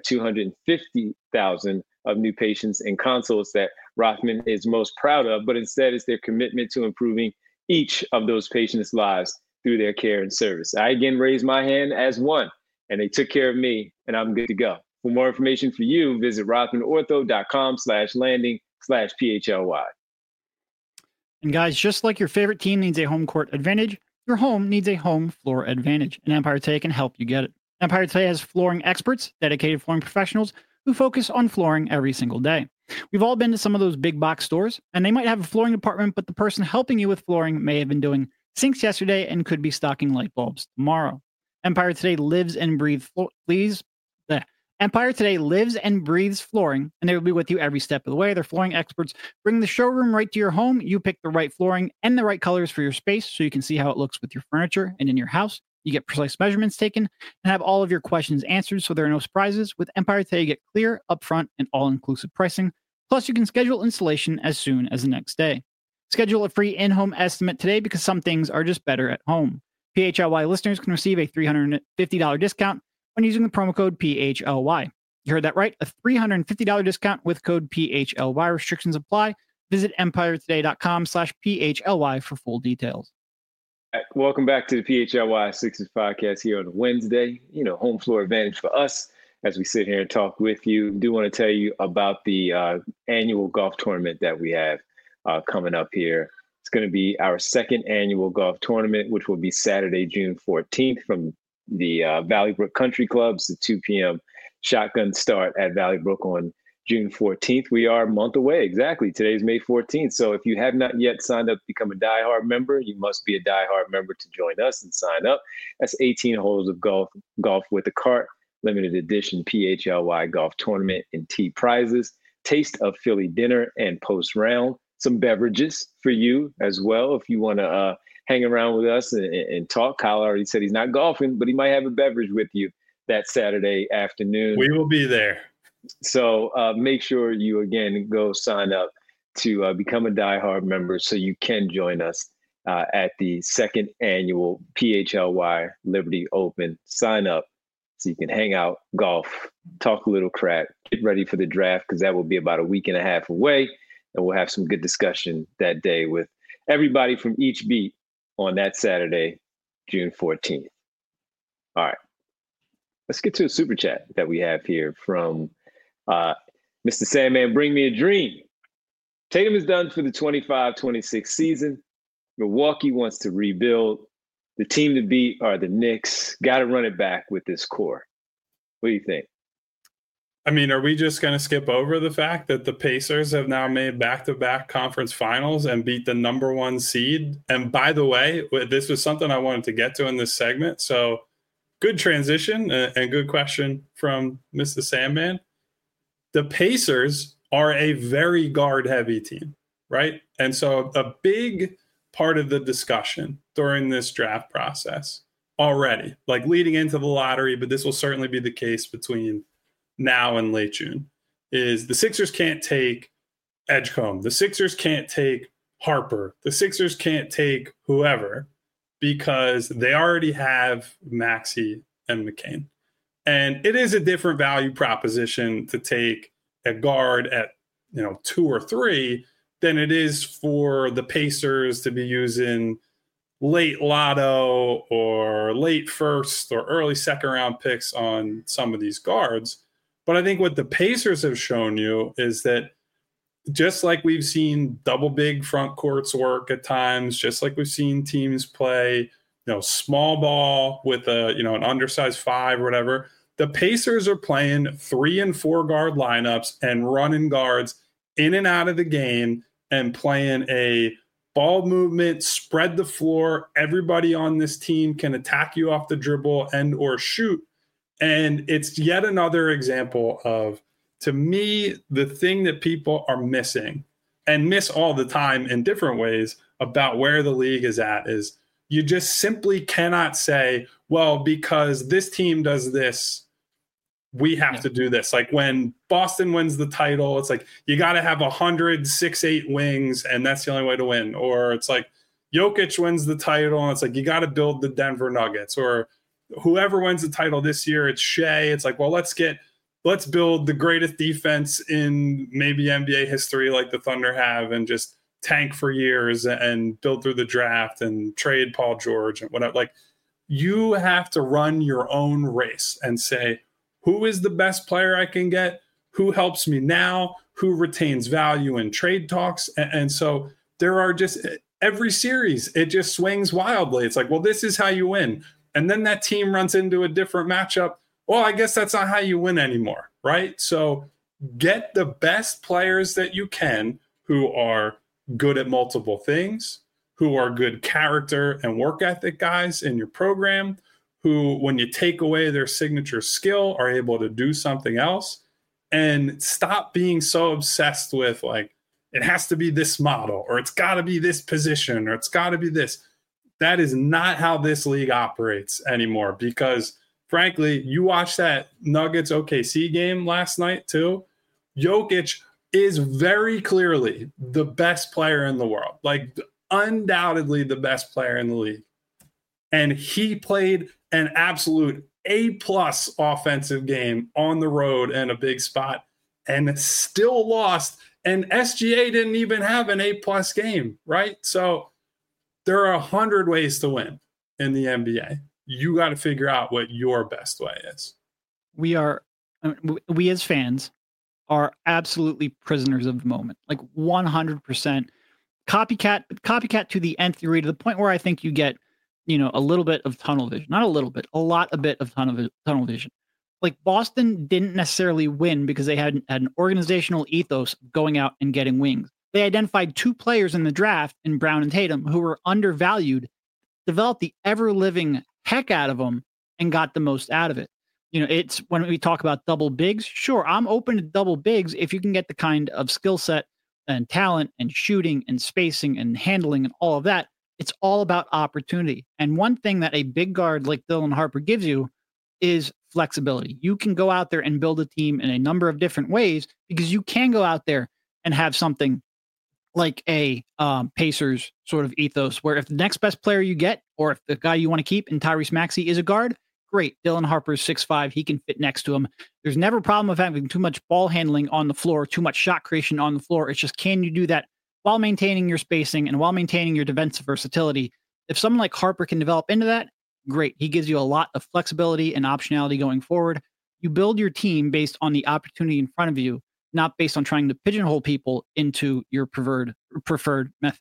250,000 of new patients and consults that Rothman is most proud of, but instead it's their commitment to improving each of those patients' lives through their care and service. I again raise my hand as one, and they took care of me, and I'm good to go. For more information for you, visit rothmanortho.com/landing/PHLY. And guys, just like your favorite team needs a home court advantage, your home needs a home floor advantage, and Empire Today can help you get it. Empire Today has flooring experts, dedicated flooring professionals who focus on flooring every single day. We've all been to some of those big box stores, and they might have a flooring department, but the person helping you with flooring may have been doing sinks yesterday and could be stocking light bulbs tomorrow. Empire Today lives and breathes Empire Today lives and breathes flooring, and they will be with you every step of the way. Their flooring experts bring the showroom right to your home. You pick the right flooring and the right colors for your space so you can see how it looks with your furniture and in your house. You get precise measurements taken and have all of your questions answered so there are no surprises. With Empire Today, you get clear, upfront, and all-inclusive pricing. Plus, you can schedule installation as soon as the next day. Schedule a free in-home estimate today because some things are just better at home. PHLY listeners can receive a $350 discount when using the promo code PHLY. You heard that right, a $350 discount with code PHLY. Restrictions apply. Visit empiretoday.com/PHLY for full details. Welcome back to the PHLY Sixers podcast here on Wednesday. Home floor advantage for us as we sit here and talk with you. Do want to tell you about the annual golf tournament that we have coming up here. It's going to be our second annual golf tournament, which will be Saturday, June 14th from the Valley Brook Country Clubs, the 2 p.m. shotgun start at Valley Brook on June 14th. We are a month away. Exactly. Today's May 14th. So if you have not yet signed up to become a diehard member, you must be a diehard member to join us and sign up. That's 18 holes of golf with a cart, limited edition PHLY golf tournament and tee prizes, taste of Philly dinner and post round, some beverages for you as well. If you want to hang around with us and talk, Kyle already said he's not golfing, but he might have a beverage with you that Saturday afternoon. We will be there. So make sure you, again, go sign up to become a diehard member so you can join us at the second annual PHLY Liberty Open. Sign up so you can hang out, golf, talk a little crap, get ready for the draft because that will be about a week and a half away. And we'll have some good discussion that day with everybody from each beat on that Saturday, June 14th. All right. Let's get to a super chat that we have here from Mr. Sandman. Bring me a dream. Tatum is done for the 25-26 season. Milwaukee wants to rebuild. The team to beat are the Knicks. Got to run it back with this core. What do you think? I mean, are we just going to skip over the fact that the Pacers have now made back-to-back conference finals and beat the number one seed? And by the way, this was something I wanted to get to in this segment. So good transition and good question from Mr. Sandman. The Pacers are a very guard-heavy team, right? And so a big part of the discussion during this draft process already, like leading into the lottery, but this will certainly be the case between now and late June, is the Sixers can't take Edgecombe. The Sixers can't take Harper. The Sixers can't take whoever because they already have Maxey and McCain. And it is a different value proposition to take a guard at 2 or 3 than it is for the Pacers to be using late lotto or late first or early second round picks on some of these guards. But I think what the Pacers have shown you is that just like we've seen double big front courts work at times, just like we've seen teams play, small ball with an undersized 5 or whatever, the Pacers are playing 3 and 4 guard lineups and running guards in and out of the game and playing a ball movement, spread the floor. Everybody on this team can attack you off the dribble and or shoot. And it's yet another example of, to me, the thing that people are missing and miss all the time in different ways about where the league is at is you just simply cannot say, well, because this team does this, we have to do this. Like when Boston wins the title, it's like you got to have 106-8 wings, and that's the only way to win. Or it's like Jokic wins the title, and it's like you got to build the Denver Nuggets. Or whoever wins the title this year, it's Shea. It's like, well, let's build the greatest defense in maybe NBA history, like the Thunder have, and just tank for years and build through the draft and trade Paul George and whatever. Like, you have to run your own race and say, who is the best player I can get? Who helps me now? Who retains value in trade talks? And so there are just every series, it just swings wildly. It's like, well, this is how you win. And then that team runs into a different matchup. Well, I guess that's not how you win anymore, right? So get the best players that you can who are good at multiple things, who are good character and work ethic guys in your program, who, when you take away their signature skill, are able to do something else. And stop being so obsessed with, like, it has to be this model, or it's got to be this position, or it's got to be this. That is not how this league operates anymore, because, frankly, you watched that Nuggets OKC game last night, too. Jokic is very clearly the best player in the world, like undoubtedly the best player in the league. And he played an absolute A-plus offensive game on the road in a big spot and still lost. And SGA didn't even have an A-plus game, right? So there are 100 ways to win in the NBA. You got to figure out what your best way is. We as fans are absolutely prisoners of the moment, like 100% copycat to the nth degree, to the point where I think you get, a little bit of tunnel vision, not a little bit, a bit of tunnel vision. Like Boston didn't necessarily win because they had an organizational ethos going out and getting wings. They identified 2 players in the draft in Brown and Tatum who were undervalued, developed the ever-living heck out of them, and got the most out of it. It's when we talk about double bigs, sure, I'm open to double bigs if you can get the kind of skill set and talent and shooting and spacing and handling and all of that. It's all about opportunity. And one thing that a big guard like Dylan Harper gives you is flexibility. You can go out there and build a team in a number of different ways, because you can go out there and have something like a Pacers sort of ethos, where if the next best player you get, or if the guy you want to keep in Tyrese Maxey is a guard, great. Dylan Harper's 6'5", he can fit next to him. There's never a problem of having too much ball handling on the floor, too much shot creation on the floor. It's just, can you do that while maintaining your spacing and while maintaining your defensive versatility? If someone like Harper can develop into that, great. He gives you a lot of flexibility and optionality going forward. You build your team based on the opportunity in front of you, not based on trying to pigeonhole people into your preferred method.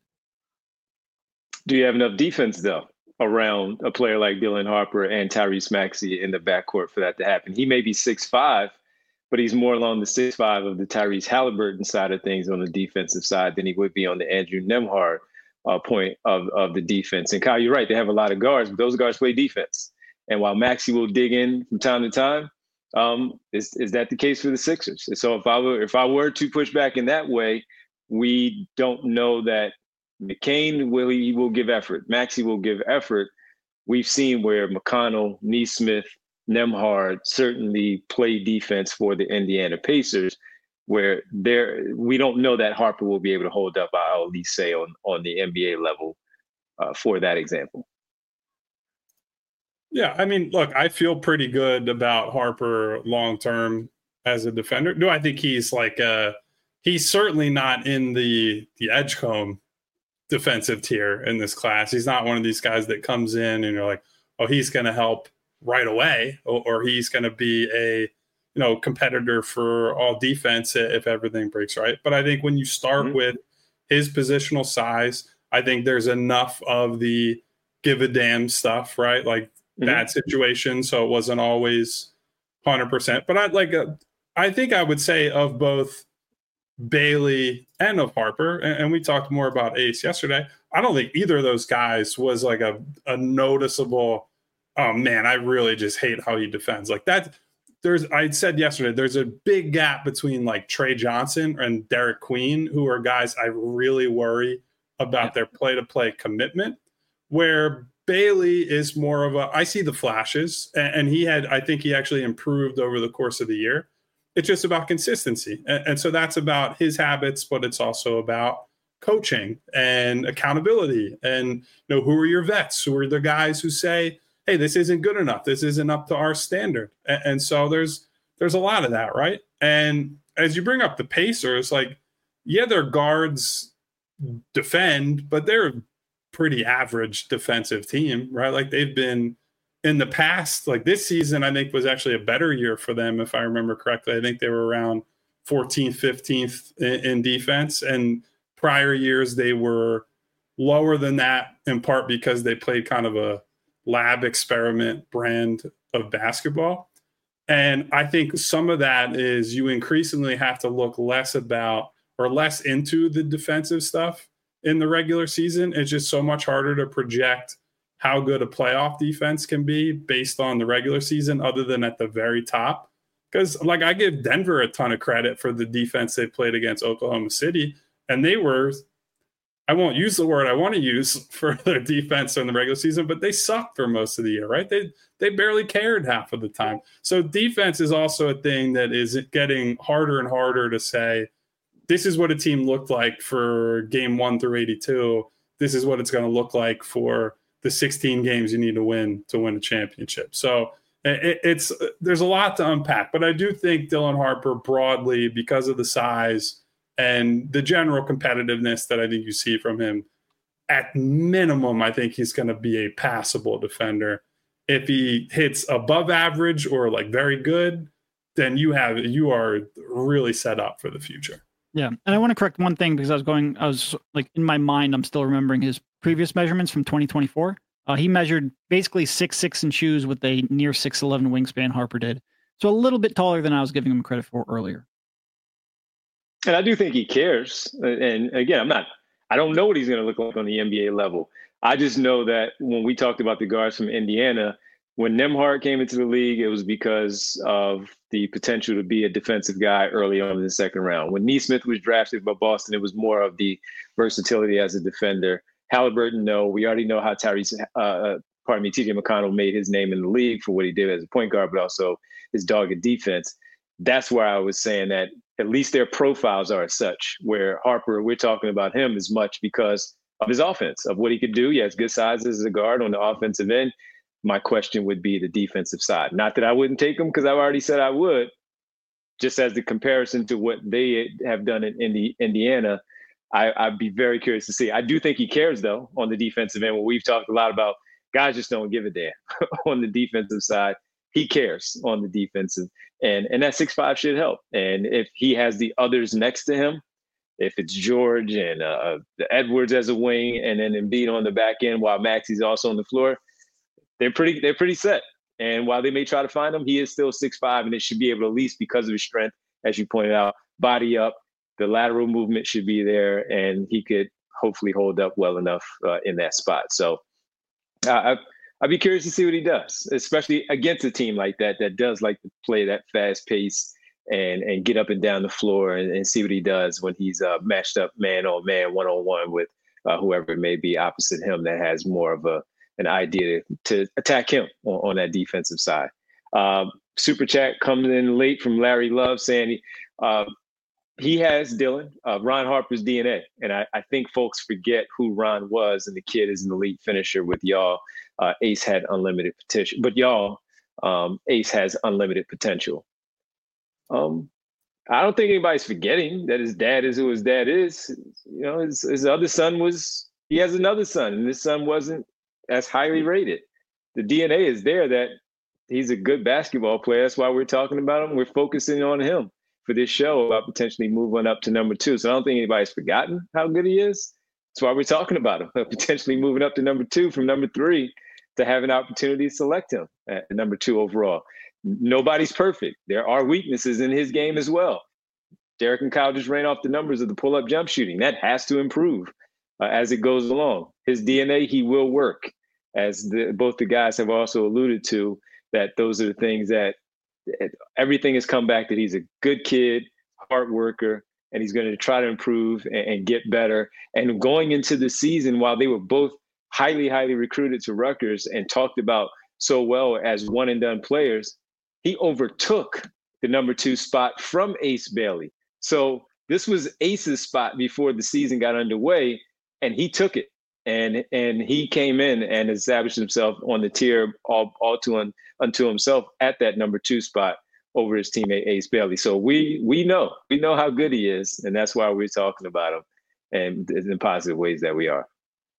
Do you have enough defense, though, around a player like Dylan Harper and Tyrese Maxey in the backcourt for that to happen? He may be 6'5", but he's more along the 6'5" of the Tyrese Halliburton side of things on the defensive side than he would be on the Andrew Nembhard point of the defense. And Kyle, you're right. They have a lot of guards, but those guards play defense. And while Maxey will dig in from time to time, is that the case for the Sixers? And so if I were to push back in that way, we don't know that McCain will give effort. Maxey will give effort. We've seen where McConnell, Nesmith, Nembhard certainly play defense for the Indiana Pacers, where we don't know that Harper will be able to hold up, I'll at least say, on the NBA level for that example. Yeah, I mean, look, I feel pretty good about Harper long-term as a defender. Do I think he's he's certainly not in the Edgecombe defensive tier in this class. He's not one of these guys that comes in and you're like, oh, he's going to help right away, or he's going to be a competitor for all defense if everything breaks right. But I think when you start with his positional size, I think there's enough of the give a damn stuff, right? Like that situation. So it wasn't always 100%. But I think I would say of both Bailey and of Harper, and we talked more about Ace yesterday, I don't think either of those guys was like a noticeable, oh man, I really just hate how he defends. Like that, I said yesterday, there's a big gap between like Trey Johnson and Derek Queen, who are guys I really worry about their play-to-play commitment, where Bailey is more of I see the flashes, and I think he actually improved over the course of the year. It's just about consistency. And so that's about his habits, but it's also about coaching and accountability. And, who are your vets? Who are the guys who say, hey, this isn't good enough. This isn't up to our standard. And so there's a lot of that, right? And as you bring up the Pacers, their guards defend, but they're a pretty average defensive team, right? Like they've been in the past, like this season, I think was actually a better year for them, if I remember correctly. I think they were around 14th, 15th in defense. And prior years, they were lower than that, in part because they played kind of a lab experiment brand of basketball. And I think some of that is you increasingly have to look less into the defensive stuff in the regular season. It's just so much harder to project how good a playoff defense can be based on the regular season, other than at the very top. Because I give Denver a ton of credit for the defense they played against Oklahoma City. And they were, I won't use the word I want to use for their defense in the regular season, but they sucked for most of the year, right? They barely cared half of the time. So defense is also a thing that is getting harder and harder to say, this is what a team looked like for game 1 through 82. This is what it's going to look like for the 16 games you need to win a championship. So there's a lot to unpack, but I do think Dylan Harper broadly, because of the size and the general competitiveness that I think you see from him, at minimum, I think he's going to be a passable defender. If he hits above average or like very good, then you are really set up for the future. Yeah. And I want to correct one thing because I was like in my mind, I'm still remembering his previous measurements from 2024. He measured basically 6'6" in shoes with a near 6'11" wingspan. Harper did. So a little bit taller than I was giving him credit for earlier. And I do think he cares. And again, I don't know what he's going to look like on the NBA level. I just know that when we talked about the guards from Indiana, when Nembhard came into the league, it was because of the potential to be a defensive guy early on in the second round. When Nesmith was drafted by Boston, it was more of the versatility as a defender. Halliburton, no. We already know how TJ McConnell made his name in the league for what he did as a point guard, but also his dogged defense. That's where I was saying that at least their profiles are as such, where Harper, we're talking about him as much because of his offense, of what he could do. He has good size as a guard on the offensive end. My question would be the defensive side. Not that I wouldn't take him because I've already said I would, just as the comparison to what they have done in Indiana. I'd be very curious to see. I do think he cares, though, on the defensive end. What we've talked a lot about, guys just don't give a damn on the defensive side. He cares on the defensive, and that 6'5" should help. And if he has the others next to him, if it's George and Edwards as a wing, and then Embiid on the back end while Maxey's also on the floor, they're pretty set. And while they may try to find him, he is still 6'5", and it should be able to, at least because of his strength, as you pointed out, body up. The lateral movement should be there, and he could hopefully hold up well enough in that spot. So I'd be curious to see what he does, especially against a team like that does like to play that fast pace and get up and down the floor and see what he does when he's matched up man-on-man, one-on-one with whoever it may be opposite him that has more of an idea to attack him on that defensive side. Super chat comes in late from Larry Love saying he has, Dylan, Ron Harper's DNA. And I think folks forget who Ron was, and the kid is an elite finisher with y'all. Ace had unlimited potential, but y'all, Ace has unlimited potential. I don't think anybody's forgetting that his dad is who his dad is. You know, his other son he has another son, and this son wasn't as highly rated. The DNA is there that he's a good basketball player. That's why we're talking about him. We're focusing on him for this show about potentially moving up to number 2. So I don't think anybody's forgotten how good he is. That's why we're talking about him, potentially moving up to number 2 from number 3 to have an opportunity to select him at number 2 overall. Nobody's perfect. There are weaknesses in his game as well. Derek and Kyle just ran off the numbers of the pull-up jump shooting. That has to improve as it goes along. His DNA, he will work, as both the guys have also alluded to, that those are the things that everything has come back that he's a good kid, hard worker, and he's going to try to improve and get better. And going into the season, while they were both highly, highly recruited to Rutgers and talked about so well as one-and-done players, he overtook the number 2 spot from Ace Bailey. So this was Ace's spot before the season got underway, and he took it. And he came in and established himself on the tier all unto himself at that number 2 spot over his teammate Ace Bailey. So we know how good he is, and that's why we're talking about him, and in positive ways that we are.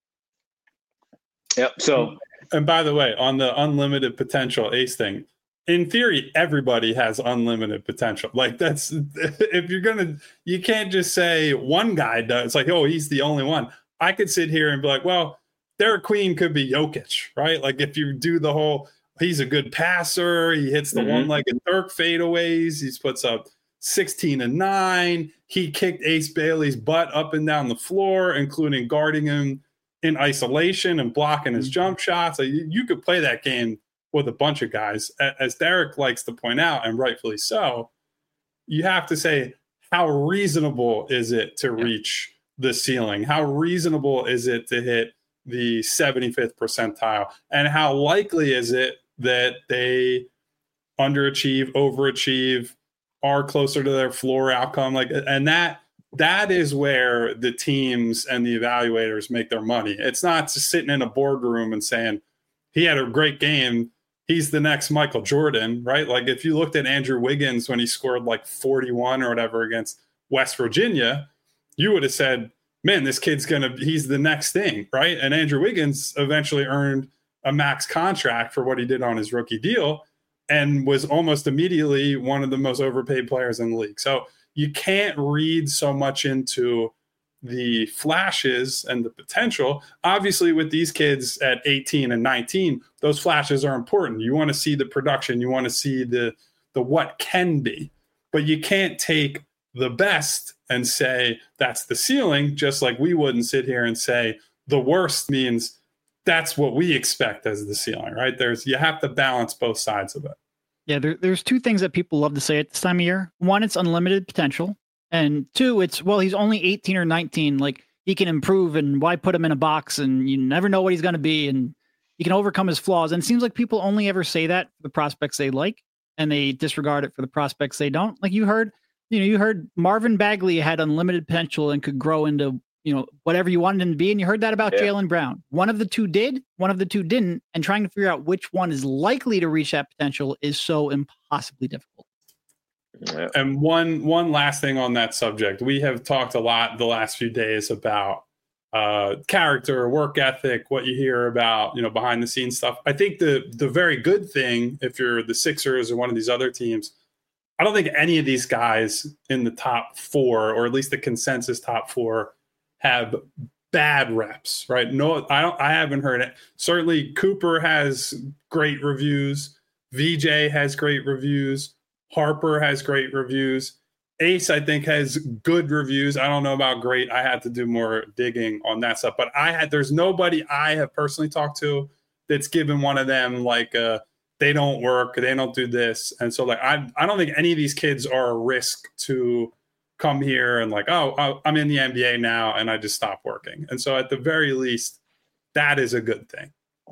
Yep. So, and by the way, on the unlimited potential Ace thing, in theory, everybody has unlimited potential. Like that's, if you can't just say one guy does. It's like, oh, he's the only one. I could sit here and be like, well, Derek Queen could be Jokic, right? Like if you do the whole, he's a good passer. He hits the one-legged Dirk fadeaways. He puts up 16 and 9. He kicked Ace Bailey's butt up and down the floor, including guarding him in isolation and blocking his jump shots. Like, you could play that game with a bunch of guys. As Derek likes to point out, and rightfully so, you have to say, how reasonable is it to reach the ceiling? How reasonable is it to hit the 75th percentile? And how likely is it that they underachieve, overachieve, are closer to their floor outcome? Like, and that is where the teams and the evaluators make their money. It's not just sitting in a boardroom and saying, he had a great game, he's the next Michael Jordan, right? Like if you looked at Andrew Wiggins when he scored like 41 or whatever against West Virginia, you would have said, man, this kid's he's the next thing, right? And Andrew Wiggins eventually earned a max contract for what he did on his rookie deal and was almost immediately one of the most overpaid players in the league. So you can't read so much into the flashes and the potential. Obviously, with these kids at 18 and 19, those flashes are important. You want to see the production. You want to see the what can be. But you can't take the best and say that's the ceiling, just like we wouldn't sit here and say the worst means that's what we expect as the ceiling, right? You have to balance both sides of it. Yeah, there's two things that people love to say at this time of year. One, it's unlimited potential. And two, it's, well, he's only 18 or 19. Like, he can improve, and why put him in a box, and you never know what he's going to be, and he can overcome his flaws. And it seems like people only ever say that for the prospects they like, and they disregard it for the prospects they don't. Like, you heard Marvin Bagley had unlimited potential and could grow into, whatever you wanted him to be. And you heard that about Jaylen Brown. One of the two did, one of the two didn't. And trying to figure out which one is likely to reach that potential is so impossibly difficult. Yeah. And one last thing on that subject. We have talked a lot the last few days about character, work ethic, what you hear about, behind the scenes stuff. I think the very good thing, if you're the Sixers or one of these other teams, I don't think any of these guys in the top four, or at least the consensus top four, have bad reps, right? No, I haven't heard it. Certainly Cooper has great reviews. VJ has great reviews. Harper has great reviews. Ace, I think, has good reviews. I don't know about great. I had to do more digging on that stuff. But there's nobody I have personally talked to that's given one of them like they don't work, they don't do this. And so like I don't think any of these kids are a risk to come here and like, oh, I'm in the NBA now and I just stopped working. And so at the very least, that is a good thing.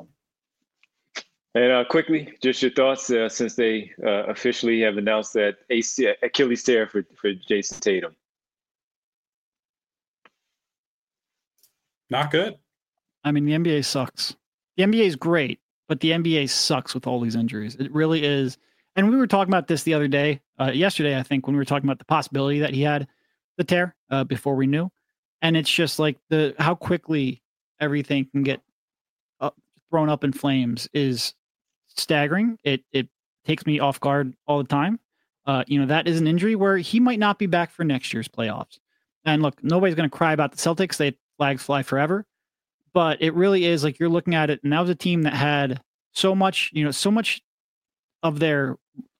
And quickly, just your thoughts since they officially have announced that Achilles tear for Jason Tatum. Not good. I mean, the NBA sucks. The NBA is great, but the NBA sucks with all these injuries. It really is. And we were talking about this the other day, yesterday, I think, when we were talking about the possibility that he had the tear before we knew. And it's just like how quickly everything can get thrown up in flames is staggering. It takes me off guard all the time. That is an injury where he might not be back for next year's playoffs. And look, nobody's going to cry about the Celtics. They flags fly forever. But it really is like you're looking at it, and that was a team that had so much of their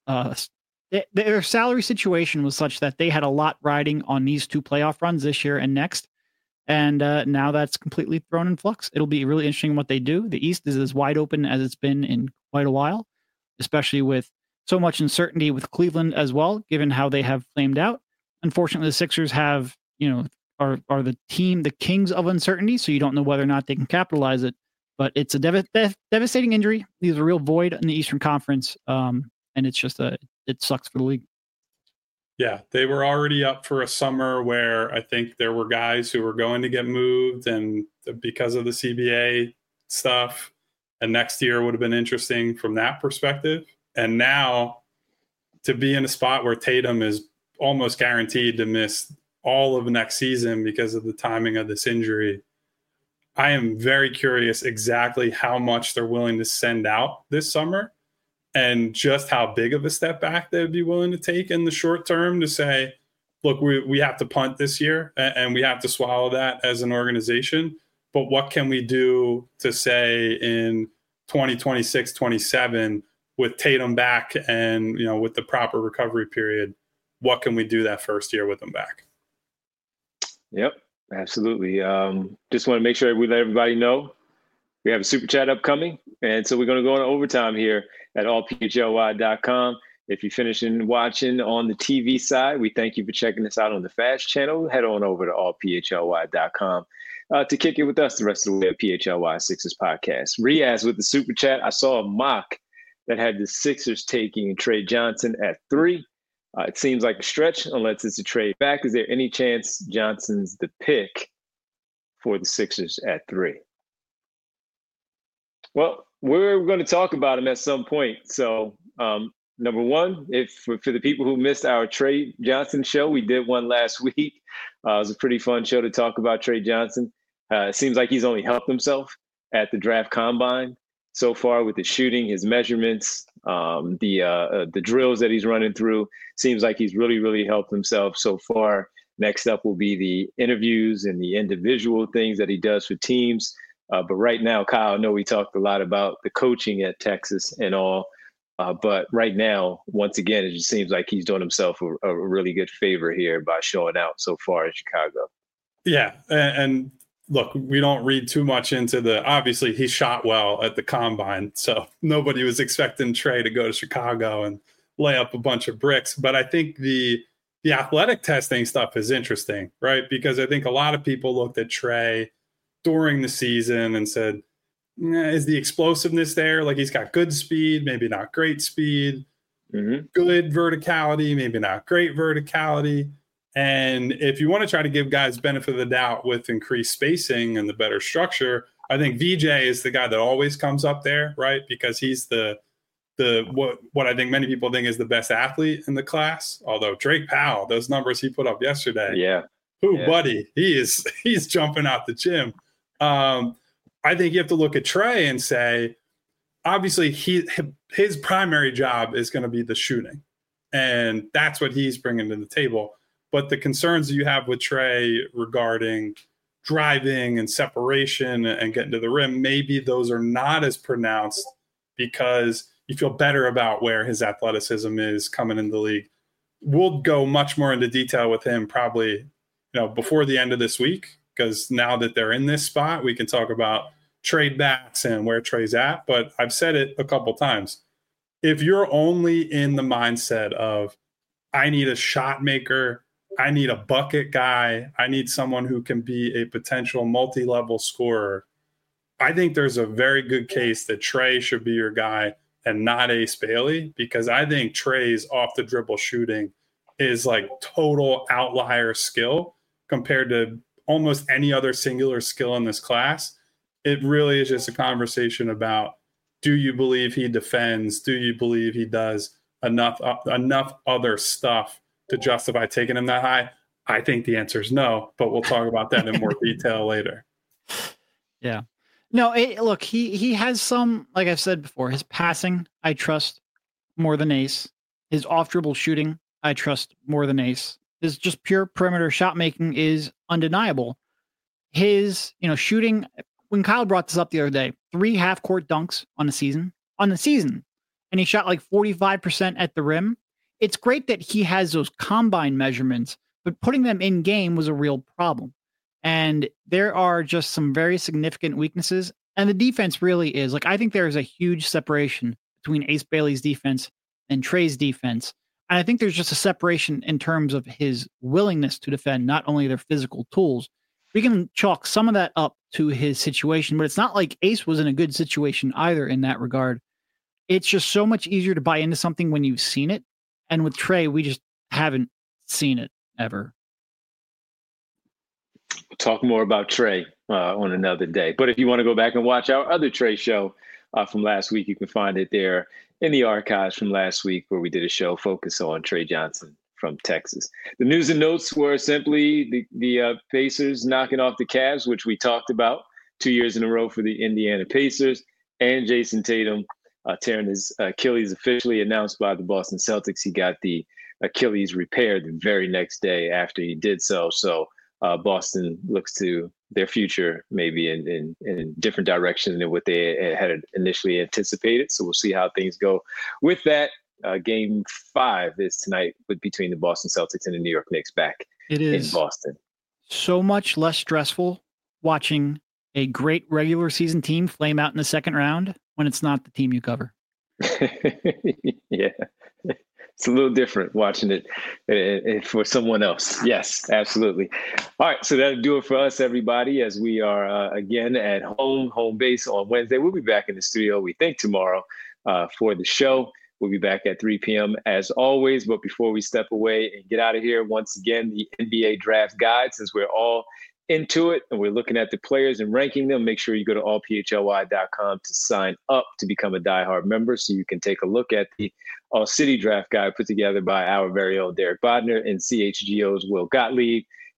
salary situation was such that they had a lot riding on these two playoff runs this year and next. And now that's completely thrown in flux. It'll be really interesting what they do. The East is as wide open as it's been in quite a while, especially with so much uncertainty with Cleveland as well, given how they have flamed out. Unfortunately, the Sixers are the team, the kings of uncertainty, so you don't know whether or not they can capitalize it. But it's a devastating injury. There's a real void in the Eastern Conference, and it's just it sucks for the league. Yeah, they were already up for a summer where I think there were guys who were going to get moved, and because of the CBA stuff, and next year would have been interesting from that perspective. And now to be in a spot where Tatum is almost guaranteed to miss all of next season because of the timing of this injury, I am very curious exactly how much they're willing to send out this summer, and just how big of a step back they would be willing to take in the short term to say, look, we have to punt this year and we have to swallow that as an organization. But what can we do to say in 2026, 27 with Tatum back and, with the proper recovery period, what can we do that first year with them back? Yep, absolutely. Just want to make sure we let everybody know we have a super chat upcoming. And so we're going to go into overtime here at allphly.com. If you're finishing watching on the TV side, we thank you for checking us out on the Fast channel. Head on over to allphly.com to kick it with us the rest of the way at PHLY Sixers podcast. Riaz with the super chat. I saw a mock that had the Sixers taking Trey Johnson at 3. It seems like a stretch unless it's a trade back. Is there any chance Johnson's the pick for the Sixers at 3? Well, we're going to talk about him at some point. So, number one, for the people who missed our Trey Johnson show, we did one last week It was a pretty fun show to talk about Trey Johnson. It seems like he's only helped himself at the draft combine so far with his shooting, his measurements, the drills that he's running through. Seems like he's really, really helped himself so far. Next up will be the interviews and the individual things that he does for teams. But right now, Kyle, I know we talked a lot about the coaching at Texas and all. But right now, once again, it just seems like he's doing himself a really good favor here by showing out so far in Chicago. Yeah. And look, we don't read too much into obviously he shot well at the combine. So nobody was expecting Trey to go to Chicago and lay up a bunch of bricks. But I think the athletic testing stuff is interesting, right? Because I think a lot of people looked at Trey during the season and said, is the explosiveness there? Like, he's got good speed, maybe not great speed, good verticality, maybe not great verticality. And if you want to try to give guys benefit of the doubt with increased spacing and the better structure, I think VJ is the guy that always comes up there, right? Because he's what I think many people think is the best athlete in the class. Although Drake Powell, those numbers he put up yesterday, buddy, he's jumping out the gym. I think you have to look at Trey and say, obviously his primary job is going to be the shooting, and that's what he's bringing to the table. But the concerns you have with Trey regarding driving and separation and getting to the rim, maybe those are not as pronounced because you feel better about where his athleticism is coming into the league. We'll go much more into detail with him probably, before the end of this week, because now that they're in this spot, we can talk about trade backs and where Trey's at. But I've said it a couple times. If you're only in the mindset of, I need a shot maker, I need a bucket guy, I need someone who can be a potential multi-level scorer, I think there's a very good case that Trey should be your guy and not Ace Bailey, because I think Trey's off the dribble shooting is like total outlier skill compared to almost any other singular skill in this class. It really is just a conversation about, do you believe he defends? Do you believe he does enough other stuff to justify taking him that high? I think the answer is no, but we'll talk about that in more detail later. Yeah. No, look, he has some, like I've said before, his passing, I trust more than Ace. His off-dribble shooting, I trust more than Ace. His just pure perimeter shot making is undeniable. His, shooting, when Kyle brought this up the other day, 3 half-court dunks on the season, and he shot like 45% at the rim. It's great that he has those combine measurements, but putting them in game was a real problem. And there are just some very significant weaknesses. And the defense really is. Like, I think there is a huge separation between Ace Bailey's defense and Trey's defense. And I think there's just a separation in terms of his willingness to defend, not only their physical tools. We can chalk some of that up to his situation, but it's not like Ace was in a good situation either in that regard. It's just so much easier to buy into something when you've seen it. And with Trey, we just haven't seen it ever. Talk more about Trey on another day. But if you want to go back and watch our other Trey show from last week, you can find it there in the archives from last week, where we did a show focused on Trey Johnson from Texas. The news and notes were simply the Pacers knocking off the Cavs, which we talked about 2 years in a row for the Indiana Pacers, and Jason Tatum tearing his Achilles, officially announced by the Boston Celtics. He got the Achilles repaired the very next day after he did so. So Boston looks to their future maybe in different direction than what they had initially anticipated. So we'll see how things go with that. Game 5 is tonight between the Boston Celtics and the New York Knicks back in Boston. So much less stressful watching a great regular season team flame out in the second round when it's not the team you cover. Yeah. It's a little different watching it for someone else. Yes, absolutely. All right, so that'll do it for us, everybody, as we are, again, at home base on Wednesday. We'll be back in the studio, we think, tomorrow for the show. We'll be back at 3 p.m. as always. But before we step away and get out of here, once again, the NBA Draft Guide, since we're all into it and we're looking at the players and ranking them, make sure you go to allphly.com to sign up to become a diehard member so you can take a look at the All-City Draft Guide put together by our very own Derek Bodner and CHGO's Will Gottlieb.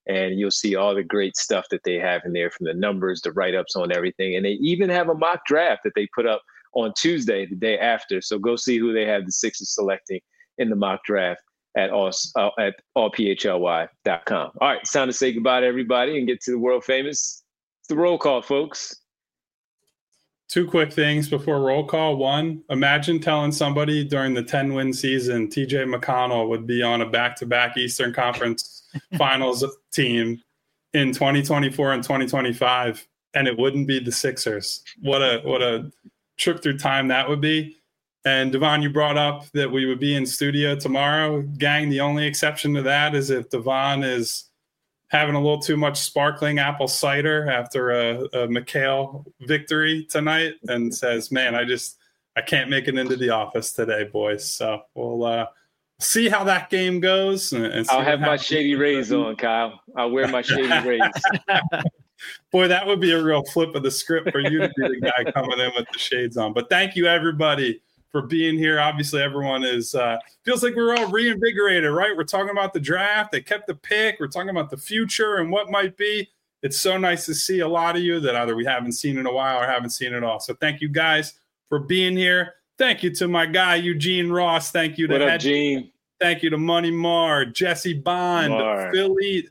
and you'll see all the great stuff that they have in there, from the numbers, the write-ups on everything. And they even have a mock draft that they put up on Tuesday, the day after. So go see who they have the Sixers selecting in the mock draft at allphly.com. All right, it's time to say goodbye to everybody and get to the world famous. It's the roll call, folks. 2 quick things before roll call. 1, imagine telling somebody during the 10-win season TJ McConnell would be on a back-to-back Eastern Conference Finals team in 2024 and 2025, and it wouldn't be the Sixers. What a trip through time that would be. And Devon, you brought up that we would be in studio tomorrow. Gang, the only exception to that is if Devon is having a little too much sparkling apple cider after a McHale victory tonight and says, man, I can't make it into the office today, boys. So we'll see how that game goes. And I'll have my Shady Rays on, Kyle. I'll wear my Shady Rays. Boy, that would be a real flip of the script for you to be the guy coming in with the shades on. But thank you, everybody, for being here. Obviously, everyone is feels like we're all reinvigorated, right? We're talking about the draft. They kept the pick. We're talking about the future and what might be. It's so nice to see a lot of you that either we haven't seen in a while or haven't seen at all. So thank you guys for being here. Thank you to my guy, Eugene Ross. Thank you to what up, Gene? Thank you to Money Mar, Jesse Bond, Philly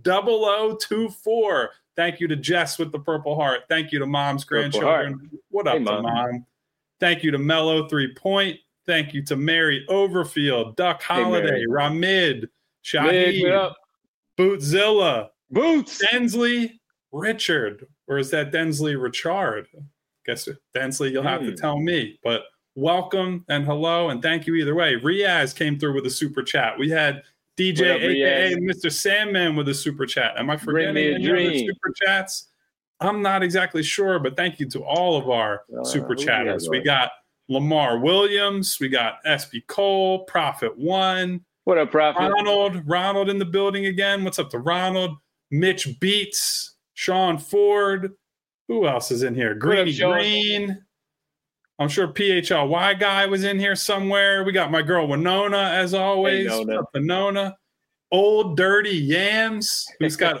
0024. Thank you to Jess with the Purple Heart. Thank you to Mom's grandchildren. What up, Mom? Thank you to Mellow 3 Point. Thank you to Mary Overfield, Duck Holiday, Ramid, Shahid, Bootzilla, Densley, Richard. Or is that Densley Richard? Guess Densley, you'll have to tell me. But welcome and hello and thank you either way. Riaz came through with a super chat. We had DJ, up, a.k.a. Mr. Sandman, with a super chat. Am I forgetting any other super chats? I'm not exactly sure, but thank you to all of our super chatters. We got Lamar Williams. We got SB Cole, Prophet One. What up, Prophet? Ronald in the building again. What's up to Ronald? Mitch Beats, Sean Ford. Who else is in here? Greeny Green. I'm sure PHLY guy was in here somewhere. We got my girl Winona, as always. Hey, Winona. Old Dirty Yams, who's got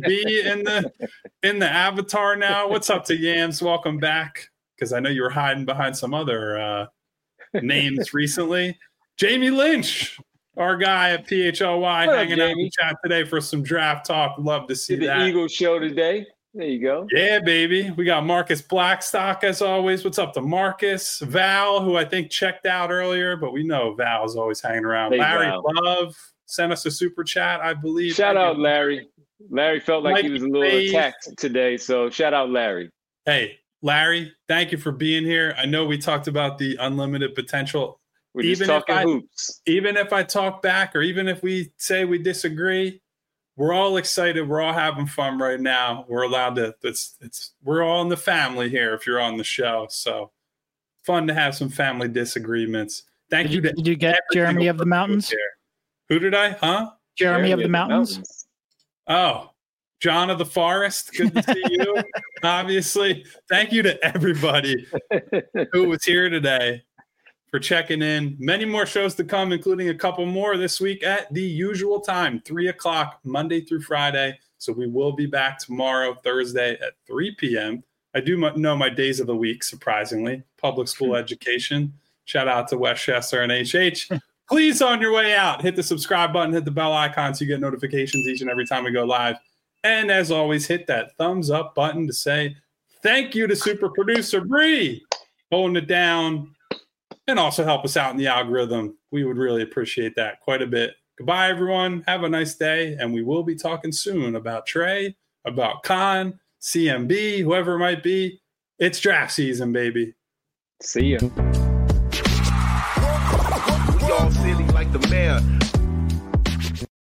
ODB in the avatar now. What's up to Yams? Welcome back, because I know you were hiding behind some other names recently. Jamie Lynch, our guy at PHLY, hanging out in the chat today for some draft talk. Love to see that. The Eagles show today. There you go. Yeah, baby. We got Marcus Blackstock, as always. What's up to Marcus? Val, who I think checked out earlier, but we know Val's always hanging around. Hey, Larry Love sent us a super chat, I believe. Shout out, Larry. Larry felt like he was a little attacked today, so shout out, Larry. Hey, Larry, thank you for being here. I know we talked about the unlimited potential. We're just talking hoops. Even if I talk back, or even if we say we disagree, we're all excited. We're all having fun right now. We're allowed to. We're all in the family here. If you're on the show, so fun to have some family disagreements. Thank you. Did you get Jeremy of the Mountains? Who did I? Huh? Jeremy of the Mountains. Oh, John of the Forest. Good to see you. Obviously, thank you to everybody who was here today for checking in. Many more shows to come, including a couple more this week at the usual time, 3:00, Monday through Friday. So we will be back tomorrow, Thursday at 3 p.m. I do know my days of the week, surprisingly. Public school education. Shout out to Westchester and HH. Please, on your way out, hit the subscribe button, hit the bell icon so you get notifications each and every time we go live. And as always, hit that thumbs up button to say thank you to super producer Bree, holding it down. And also help us out in the algorithm. We would really appreciate that quite a bit. Goodbye, everyone. Have a nice day. And we will be talking soon about Trey, about Khan, CMB, whoever it might be. It's draft season, baby. See ya. We all silly like the mayor.